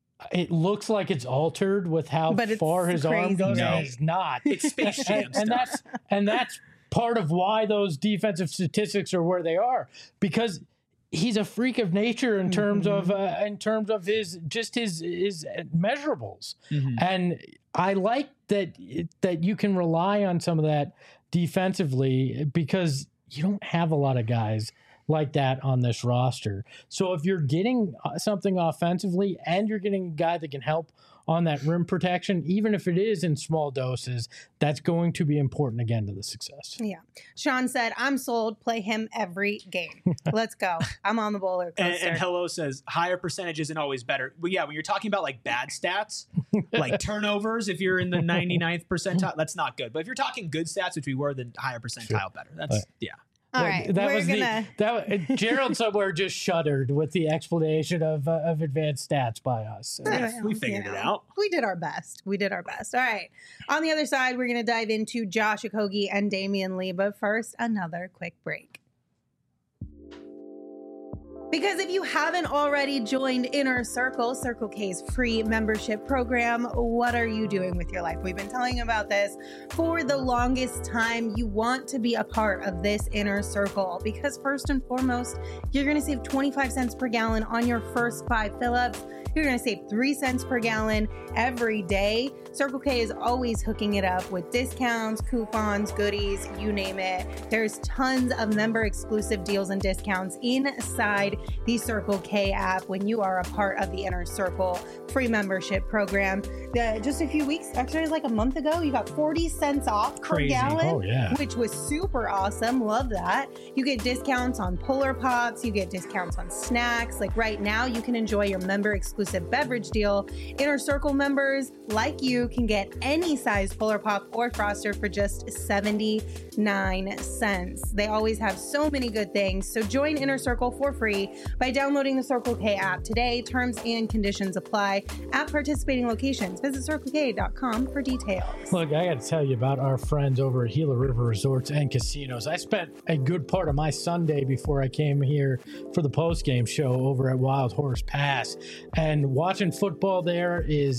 It looks like it's altered with how far his arm goes. No. And it's not. It's Space Jam stuff. And that's part of why those defensive statistics are where they are, because he's a freak of nature in terms of his measurables. And I like that you can rely on some of that defensively, because you don't have a lot of guys like that on this roster. So if you're getting something offensively and you're getting a guy that can help on that rim protection, even if it is in small doses, that's going to be important again to the success. Yeah. Sean said, I'm sold. Play him every game. Let's go. I'm on the bowler coaster. And Hello says, higher percentage isn't always better. But yeah, when you're talking about like bad stats, like turnovers, if you're in the 99th percentile, that's not good. But if you're talking good stats, which we were, then higher percentile better. That's, yeah. All right, Gerald somewhere just shuddered with the explanation of advanced stats by us. We figured it out. We did our best. All right. On the other side, we're going to dive into Josh Okogie and Damian Lee. But first, another quick break. Because if you haven't already joined Inner Circle, Circle K's free membership program, what are you doing with your life? We've been telling you about this for the longest time. You want to be a part of this Inner Circle because first and foremost, you're going to save 25 cents per gallon on your first 5 fill-ups. You're going to save 3 cents per gallon every day. Circle K is always hooking it up with discounts, coupons, goodies, you name it. There's tons of member exclusive deals and discounts inside the Circle K app when you are a part of the Inner Circle free membership program. Just a few weeks, actually it was like a month ago, you got 40 cents off per gallon, which was super awesome. Love that. You get discounts on Polar Pops, you get discounts on snacks. Like right now, you can enjoy your member exclusive beverage deal. Inner Circle members like you can get any size Polar Pop or Froster for just 79 cents. They always have so many good things. So join Inner Circle for free by downloading the Circle K app today. Terms and conditions apply at participating locations. Visit CircleK.com for details. Look, I got to tell you about our friends over at Gila River Resorts and Casinos. I spent a good part of my Sunday before I came here for the post-game show over at Wild Horse Pass. And watching football there is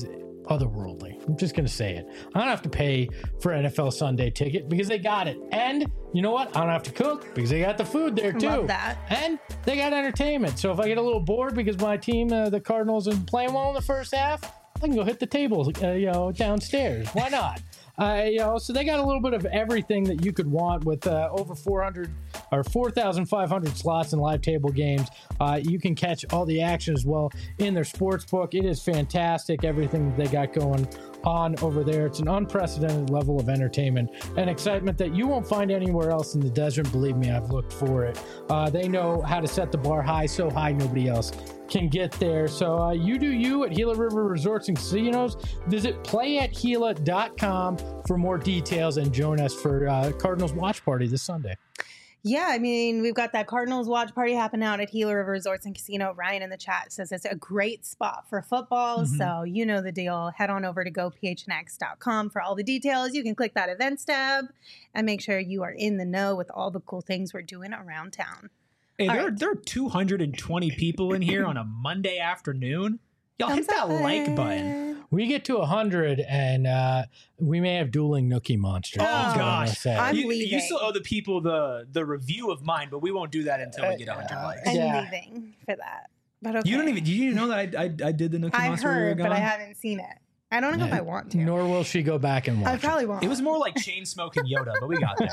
otherworldly. I'm just going to say it. I don't have to pay for NFL Sunday ticket because they got it. And you know what? I don't have to cook because they got the food there too. Love that. And they got entertainment. So if I get a little bored because my team, the Cardinals, isn't playing well in the first half, I can go hit the table, downstairs. Why not? So they got a little bit of everything that you could want with over 400 or 4,500 slots in live table games. You can catch all the action as well in their sports book. It is fantastic, everything that they got going on over there. It's an unprecedented level of entertainment and excitement that you won't find anywhere else in the desert. Believe me, I've looked for it. They know how to set the bar high, so high nobody else can get there. So you do you at Gila River Resorts and Casinos. Visit playatgila.com for more details and join us for Cardinals Watch Party this Sunday. Yeah, I mean, we've got that Cardinals watch party happening out at Gila River Resorts and Casino. Ryan in the chat says it's a great spot for football. So you know the deal. Head on over to gophnx.com for all the details. You can click that events tab and make sure you are in the know with all the cool things we're doing around town. Hey, there are 220 people in here on a Monday afternoon. Y'all hit that like button. We get to 100 and we may have dueling Nookie monsters. Oh gosh, I'm you leaving. still owe the people the review of mine, but we won't do that until we get 100 likes. I'm leaving for that. But okay. Did you know that I did the Nookie I monster? heard, but I haven't seen it. I don't know if I want to. Nor will she go back and watch I probably won't. It was more like chain smoking Yoda, but we got there.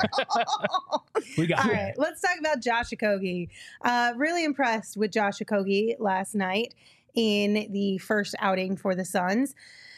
All right, let's talk about Josh Okogie. Really impressed with Josh Okogie last night in the first outing for the Suns.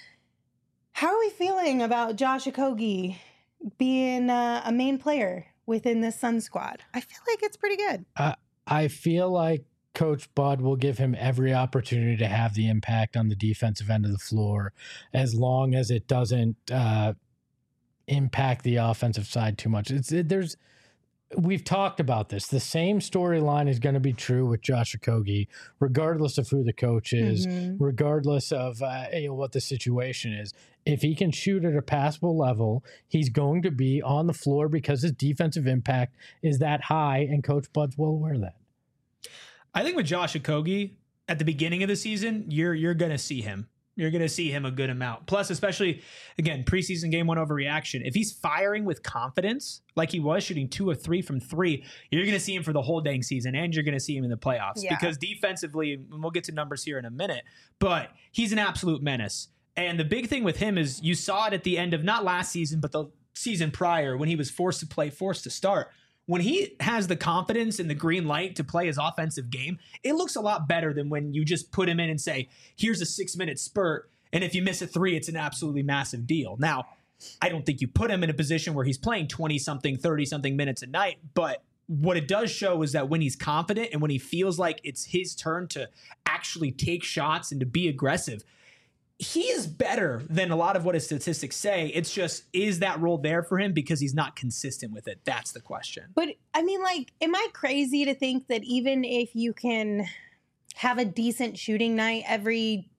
How are we feeling about Josh Okogie being a main player within this Suns squad? I feel like it's pretty good. I feel like Coach Bud will give him every opportunity to have the impact on the defensive end of the floor as long as it doesn't impact the offensive side too much. We've talked about this. The same storyline is going to be true with Josh Okogie, regardless of who the coach is, regardless of what the situation is. If he can shoot at a passable level, he's going to be on the floor because his defensive impact is that high, and Coach Bud's well aware of that. I think with Josh Okogie, at the beginning of the season, you're going to see him. You're going to see him a good amount. Plus, especially, again, preseason game 1 overreaction. If he's firing with confidence, like he was shooting 2 of 3 from 3, you're going to see him for the whole dang season, and you're going to see him in the playoffs. Yeah. Because defensively, and we'll get to numbers here in a minute, but he's an absolute menace. And the big thing with him is you saw it at the end of not last season, but the season prior when he was forced to play, forced to start. When he has the confidence and the green light to play his offensive game, it looks a lot better than when you just put him in and say, here's a 6-minute spurt, and if you miss a 3, it's an absolutely massive deal. Now, I don't think you put him in a position where he's playing 20-something, 30-something minutes a night, but what it does show is that when he's confident and when he feels like it's his turn to actually take shots and to be aggressive, he is better than a lot of what his statistics say. It's just, is that role there for him because he's not consistent with it? That's the question. But I mean, like, am I crazy to think that even if you can have a decent shooting night every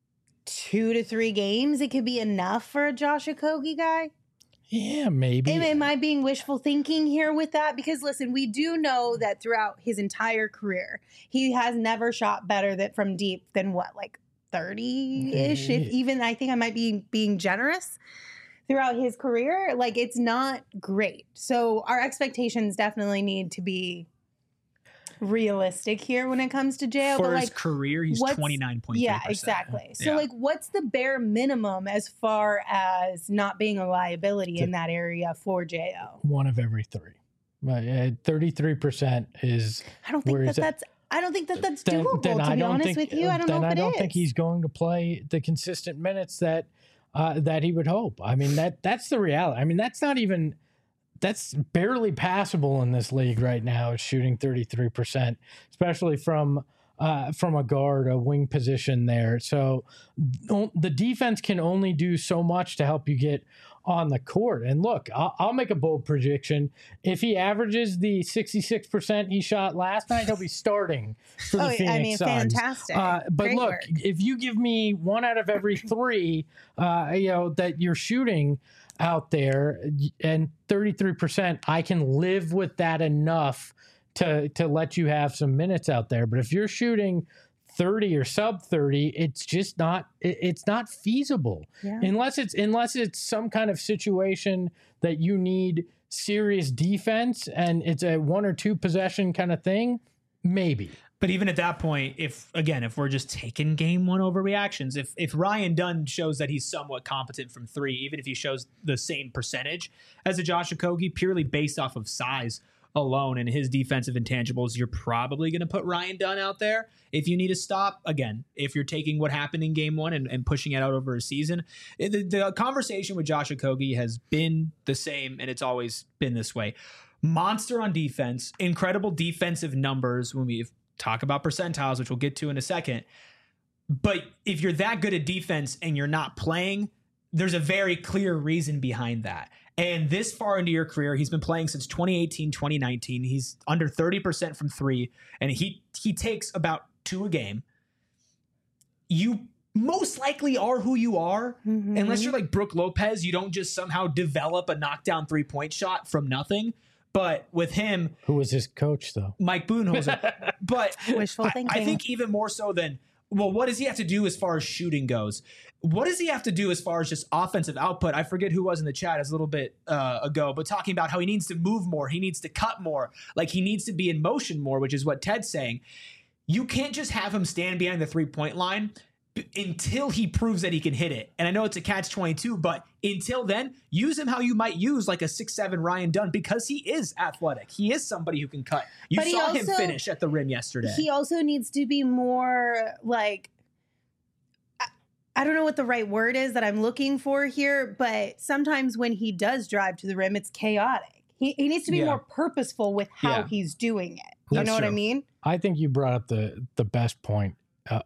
2 to 3 games, it could be enough for a Josh Okogie guy? Yeah, maybe. Am I being wishful thinking here with that? Because listen, we do know that throughout his entire career, he has never shot better from deep than what, like 30-ish, if even. I think I might be being generous throughout his career. Like, it's not great. So our expectations definitely need to be realistic here when it comes to JO. For but his like, career, he's 29.3%. Yeah, exactly. So like, what's the bare minimum as far as not being a liability in that area for JO? 1 of every 3. 33% is. I don't think that's doable, to be honest with you. I don't know if it is. I don't think he's going to play the consistent minutes that he would hope. I mean, that's the reality. I mean, that's barely passable in this league right now, is shooting 33%, especially from a guard, a wing position there. So the defense can only do so much to help you get on the court. And look, I'll make a bold prediction. If he averages the 66% he shot last night, he'll be starting for the Phoenix Suns. Fantastic. But Great look, work. if you give me 1 out of every 3, that you're shooting out there, and 33%, I can live with that enough to let you have some minutes out there. But if you're shooting 30 or sub 30, it's just not, it's not feasible unless it's some kind of situation that you need serious defense and it's a 1 or 2 possession kind of thing, maybe. But even at that point, if we're just taking game one overreactions, if Ryan Dunn shows that he's somewhat competent from 3, even if he shows the same percentage as a Josh Okogie, purely based off of size alone and his defensive intangibles, you're probably going to put Ryan Dunn out there if you need to stop. Again, if you're taking what happened in game 1 and pushing it out over a season, the conversation with Josh Okogie has been the same, and it's always been this way. Monster on defense, incredible defensive numbers when we talk about percentiles, which we'll get to in a second. But if you're that good at defense and you're not playing, there's a very clear reason behind that. And this far into your career, he's been playing since 2018, 2019. He's under 30% from 3, and he takes about 2 a game. You most likely are who you are. Unless you're like Brooke Lopez, you don't just somehow develop a knockdown 3-point shot from nothing. But with him... Who was his coach, though? Mike Budenholzer. But wishful thinking. I think even more so than... Well, what does he have to do as far as shooting goes? What does he have to do as far as just offensive output? I forget who was in the chat a little bit ago, but talking about how he needs to move more, he needs to cut more, like he needs to be in motion more, which is what Ted's saying. You can't just have him stand behind the 3-point line until he proves that he can hit it. And I know it's a catch-22, but until then, use him how you might use like a 6'7" Ryan Dunn, because he is athletic. He is somebody who can cut. You saw him finish at the rim yesterday. He also needs to be more like, I don't know what the right word is that I'm looking for here, but sometimes when he does drive to the rim, it's chaotic. He needs to be more purposeful with how he's doing it. You know what I mean? I think you brought up the best point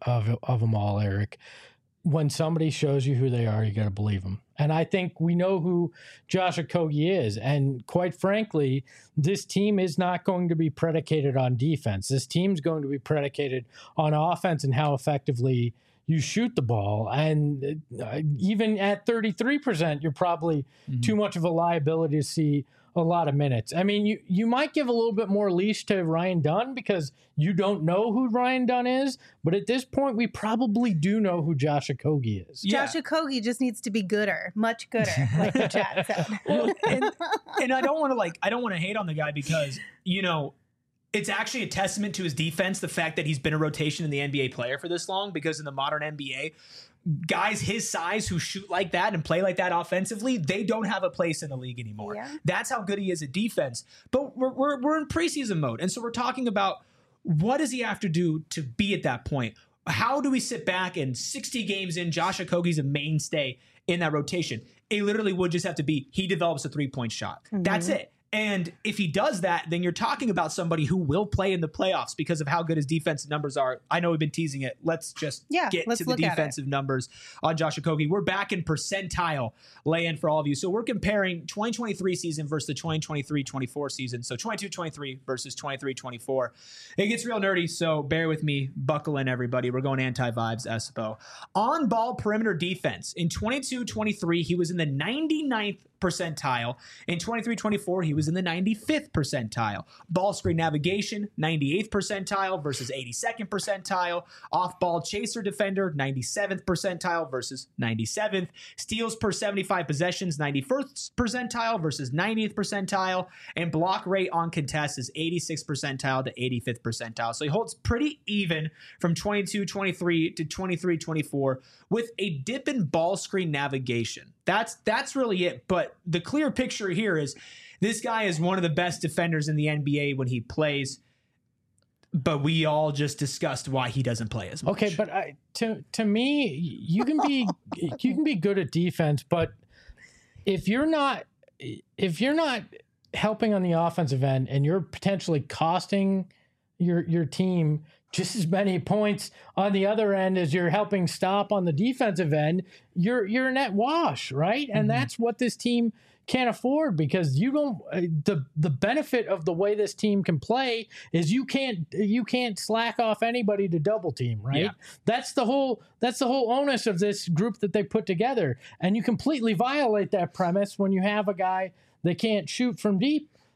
of them all, Eric. When somebody shows you who they are, you got to believe them. And I think we know who Josh Okogie is. And quite frankly, this team is not going to be predicated on defense. This team's going to be predicated on offense and how effectively you shoot the ball. And even at 33%, you're probably too much of a liability to see a lot of minutes. I mean, you might give a little bit more leash to Ryan Dunn because you don't know who Ryan Dunn is, but at this point, we probably do know who Josh Okogie is. Josh Okogie just needs to be gooder, much gooder, like the chat said. Well, and I don't want to hate on the guy because, you know, it's actually a testament to his defense, the fact that he's been a rotation in the NBA player for this long, because in the modern NBA, guys his size who shoot like that and play like that offensively, they don't have a place in the league anymore. Yeah. That's how good he is at defense. But we're in preseason mode. And so we're talking about what does he have to do to be at that point? How do we sit back and 60 games in, Josh Okogie's a mainstay in that rotation? It literally would just have to be he develops a 3-point shot. That's it. And if he does that, then you're talking about somebody who will play in the playoffs because of how good his defensive numbers are. I know we've been teasing it. Let's just get to the defensive numbers on Josh Okogie. We're back in percentile lay-in for all of you. So we're comparing 2023 season versus the 2023-24 season. So 22-23 versus 23-24. It gets real nerdy, so bear with me. Buckle in, everybody. We're going anti-vibes, Espo. On-ball perimeter defense. In 22-23, he was in the 99th percentile. In 23-24, he was in the 95th percentile. Ball screen navigation, 98th percentile versus 82nd percentile. Off-ball chaser defender, 97th percentile versus 97th. Steals per 75 possessions, 91st percentile versus 90th percentile. And block rate on contests is 86th percentile to 85th percentile. So he holds pretty even from 22-23 to 23-24 with a dip in ball screen navigation. That's really it. But the clear picture here is this guy is one of the best defenders in the NBA when he plays. But we all just discussed why he doesn't play as much. Okay, but to me, you can be good at defense, but if you're not helping on the offensive end and you're potentially costing your team just as many points on the other end as you're helping stop on the defensive end, you're a net wash, right? And that's what this team can't afford, because you don't. The benefit of the way this team can play is you can't slack off anybody to double team, right? Yeah. That's the whole onus of this group that they put together, and you completely violate that premise when you have a guy that can't shoot from deep.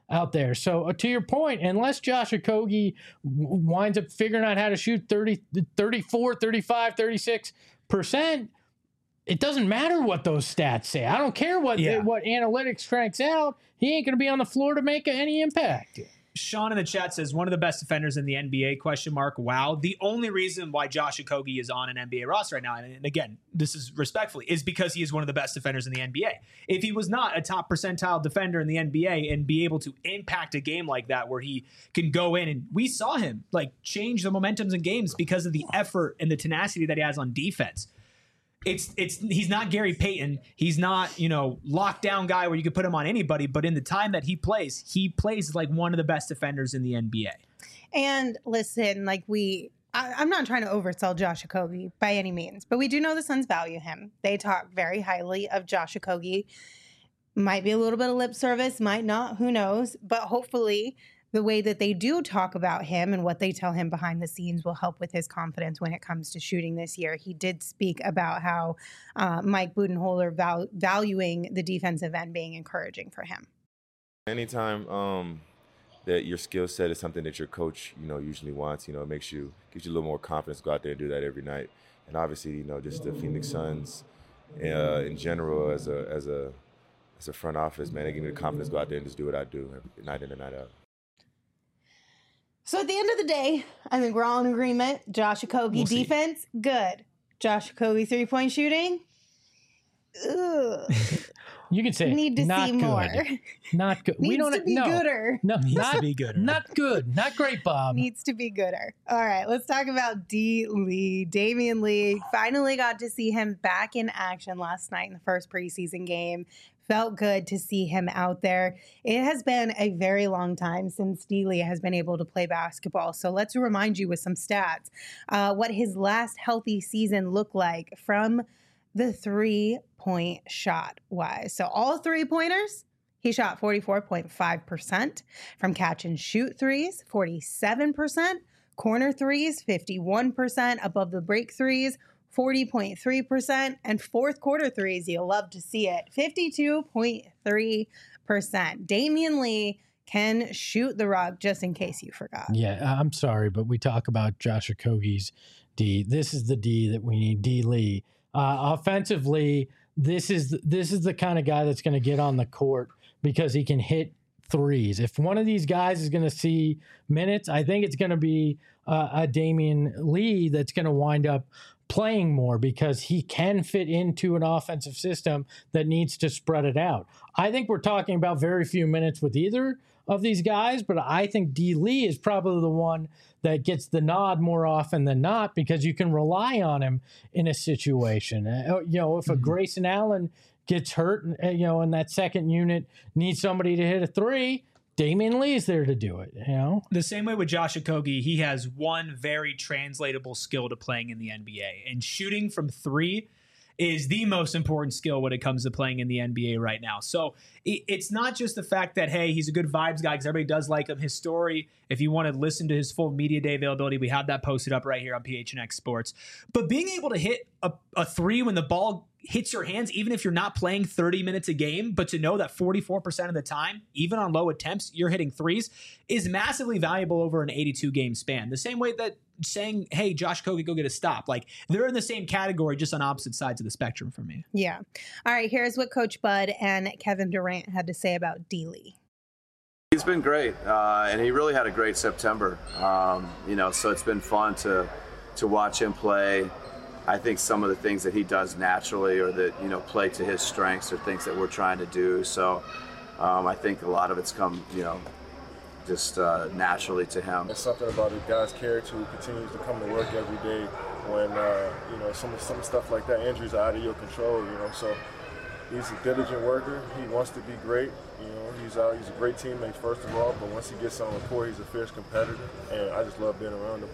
out there. So to your point, unless Josh Okogie winds up figuring out how to shoot 34, 35, 36%, it doesn't matter what those stats say. I don't care what analytics cranks out. He ain't going to be on the floor to make any impact. Sean in the chat says one of the best defenders in the NBA, ? Wow. The only reason why Josh Okogie is on an NBA roster right now, and again, this is respectfully, is because he is one of the best defenders in the NBA. If he was not a top percentile defender in the NBA and be able to impact a game like that where he can go in, and we saw him like change the momentums in games because of the effort and the tenacity that he has on defense. He's not Gary Payton. He's not, lockdown guy where you could put him on anybody, but in the time that he plays like one of the best defenders in the NBA. And listen, I'm not trying to oversell Josh Okogie by any means, but we do know the Suns value him. They talk very highly of Josh Okogie. Might be a little bit of lip service, might not, who knows, but hopefully the way that they do talk about him and what they tell him behind the scenes will help with his confidence when it comes to shooting this year. He did speak about how Mike Budenholzer valuing the defensive end being encouraging for him. Anytime that your skill set is something that your coach, usually wants, gives you a little more confidence to go out there and do that every night. And obviously, just the Phoenix Suns in general as a front office, man, they give me the confidence to go out there and just do what I do night in and night out. So at the end of the day, I think we're all in agreement. Josh Okogie defense, good. Josh Okogie 3-point shooting, ugh. You can say need to not see good. more. Not good. Needs to be gooder. No, Needs to be gooder. Not good. Not great, Bob. Needs to be gooder. All right, let's talk about D. Lee. Damian Lee, finally got to see him back in action last night in the first preseason game. Felt good to see him out there. It has been a very long time since D. Lee has been able to play basketball. So let's remind you with some stats what his last healthy season looked like from the 3-point shot wise. So all 3-pointers, he shot 44.5%. From catch and shoot threes, 47%. Corner threes, 51%. Above the break threes, 40.3%, and fourth quarter threes, you'll love to see it, 52.3%. Damian Lee can shoot the rock, just in case you forgot. Yeah, I'm sorry, but we talk about Josh Okogie's D. This is the D that we need, D. Lee. Offensively, this is the kind of guy that's going to get on the court because he can hit threes. If one of these guys is going to see minutes, I think it's going to be a Damian Lee that's going to wind up playing more because he can fit into an offensive system that needs to spread it out. I think we're talking about very few minutes with either of these guys, but I think D. Lee is probably the one that gets the nod more often than not because you can rely on him in a situation. If a Grayson Allen gets hurt, and that second unit needs somebody to hit a three, Damian Lee is there to do it, The same way with Josh Okogie, he has one very translatable skill to playing in the NBA, and shooting from three is the most important skill when it comes to playing in the NBA right now. So it's not just the fact that, hey, he's a good vibes guy because everybody does like him. His story, if you want to listen to his full media day availability, we have that posted up right here on PHNX Sports. But being able to hit a three when the ball hits your hands, even if you're not playing 30 minutes a game, but to know that 44% of the time, even on low attempts, you're hitting threes is massively valuable over an 82-game span. The same way that saying, hey, Josh Okogie, go get a stop. Like, they're in the same category, just on opposite sides of the spectrum for me. Yeah. All right, here's what Coach Bud and Kevin Durant had to say about D. Lee. He's been great, and he really had a great September. So it's been fun to watch him play. I think some of the things that he does naturally or that, play to his strengths are things that we're trying to do. So I think a lot of it's come, just naturally to him. There's something about a guy's character who continues to come to work every day when, some stuff like that, injuries are out of your control, So he's a diligent worker. He wants to be great. He's a great teammate, first of all, but once he gets on the court, he's a fierce competitor, and I just love being around him.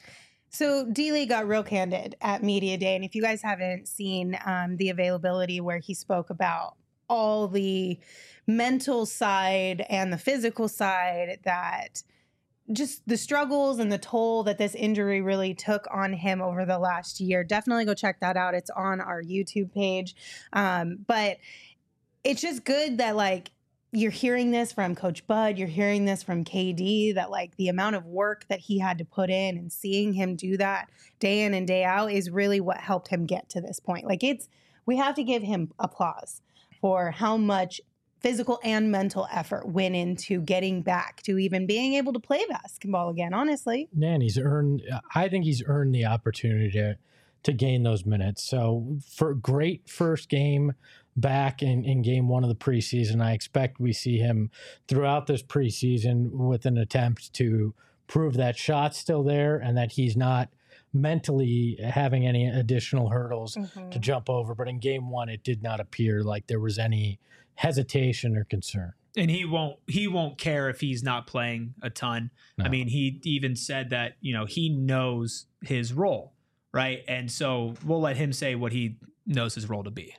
So D. Lee got real candid at Media Day, and if you guys haven't seen the availability where he spoke about all the mental side and the physical side, that just the struggles and the toll that this injury really took on him over the last year, definitely go check that out. It's on our YouTube page. But it's just good that, you're hearing this from Coach Bud, you're hearing this from KD, that like the amount of work that he had to put in and seeing him do that day in and day out is really what helped him get to this point. Like we have to give him applause for how much physical and mental effort went into getting back to even being able to play basketball again, honestly. Man, I think he's earned the opportunity to gain those minutes. So for great first game back in game one of the preseason, I expect we see him throughout this preseason with an attempt to prove that shot's still there and that he's not mentally having any additional hurdles to jump over. But in game one, it did not appear like there was any hesitation or concern. And he won't care if he's not playing a ton. No. I mean, he even said that, he knows his role, right? And so we'll let him say what he knows his role to be.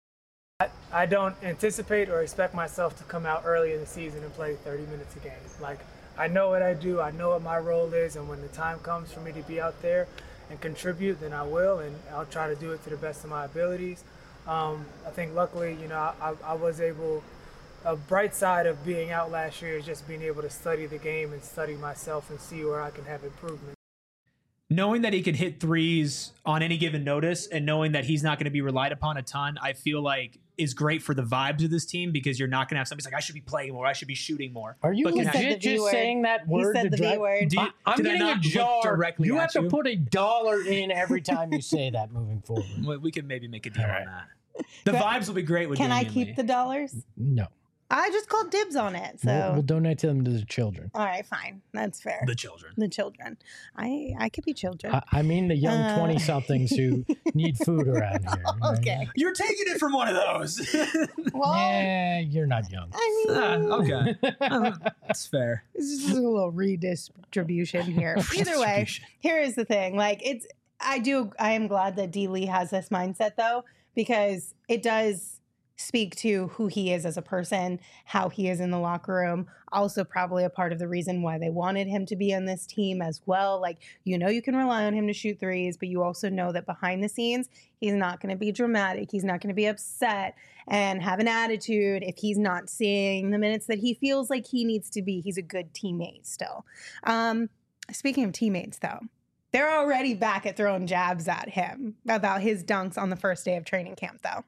I don't anticipate or expect myself to come out early in the season and play 30 minutes a game. Like, I know what I do, I know what my role is, and when the time comes for me to be out there and contribute, then I will, and I'll try to do it to the best of my abilities. I think luckily, I was able, a bright side of being out last year is just being able to study the game and study myself and see where I can have improvement. Knowing that he can hit threes on any given notice and knowing that he's not going to be relied upon a ton, I feel like is great for the vibes of this team, because you're not going to have somebody like, I should be playing more, I should be shooting more. Are you legit just saying that word? He said the V word. I'm getting a jar. You have to put $1 in every time you say that moving forward. Well, we can maybe make a deal on that. The vibes will be great with Can I keep the dollars? No. I just called dibs on it, so we'll donate to them to the children. All right, fine, that's fair. The children. I could be children. I mean the young 20-somethings who need food around here. Okay, right? You're taking it from one of those. Well, yeah, you're not young. I mean, okay, that's fair. It's just a little redistribution here. Either way, here is the thing: like I am glad that D. Lee has this mindset though, because it does speak to who he is as a person, how he is in the locker room. Also probably a part of the reason why they wanted him to be on this team as well. Like, you can rely on him to shoot threes, but you also know that behind the scenes, he's not going to be dramatic. He's not going to be upset and have an attitude if he's not seeing the minutes that he feels like he needs to be. He's a good teammate still. Speaking of teammates, though, they're already back at throwing jabs at him about his dunks on the first day of training camp, though.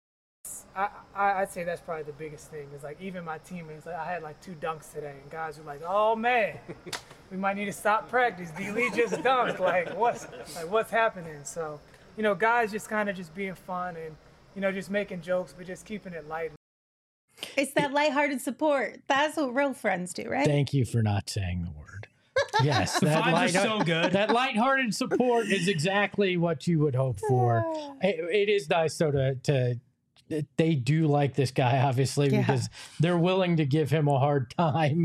I'd say that's probably the biggest thing. Is like even my teammates, like I had like 2 dunks today, and guys were like, "Oh man, we might need to stop practice. D. Lee just dunked. What's happening?" So, guys just kind of just being fun and just making jokes, but just keeping it light. It's that lighthearted support. That's what real friends do, right? Thank you for not saying the word. Yes, the vibes are so good. That lighthearted support is exactly what you would hope for. It is nice though to they do like this guy, obviously, because they're willing to give him a hard time.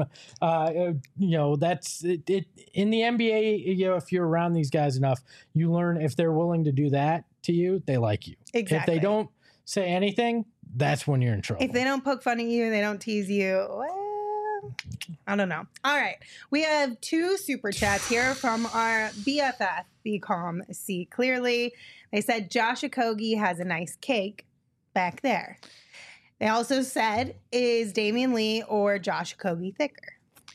That's it. In the NBA, if you're around these guys enough, you learn if they're willing to do that to you, they like you. Exactly. If they don't say anything, that's when you're in trouble. If they don't poke fun at you, they don't tease you, well, I don't know. All right. We have 2 super chats here from our BFF, BCom See Clearly. They said Josh Okogie has a nice cake back there. They also said, is Damian Lee or Josh Okogie thicker?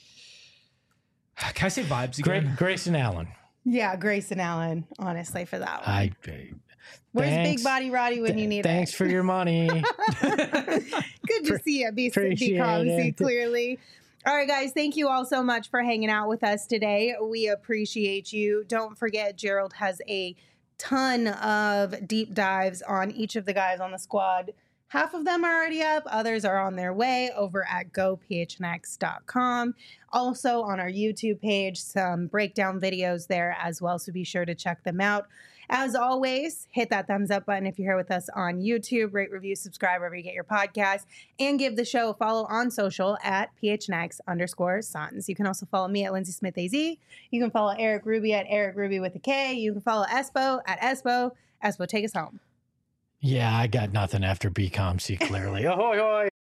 Can I say vibes again? Grayson Allen. Yeah, Grayson Allen, honestly, for that one. Where's Thanks. Big Body Roddy when you need Thanks for your money. Good to see you, See Clearly. All right, guys, thank you all so much for hanging out with us today. We appreciate you. Don't forget, Gerald has a ton of deep dives on each of the guys on the squad. Half of them are already up. Others are on their way over at gophnx.com. Also on our YouTube page, some breakdown videos there as well. So be sure to check them out. As always, hit that thumbs up button if you're here with us on YouTube. Rate, review, subscribe wherever you get your podcasts. And give the show a follow on social at PHNX_Suns. You can also follow me at Lindsay Smith AZ. You can follow Eric Ruby at Eric Ruby with a K. You can follow Espo at Espo. Espo, take us home. Yeah, I got nothing after BCom See Clearly. Ahoy, hoy.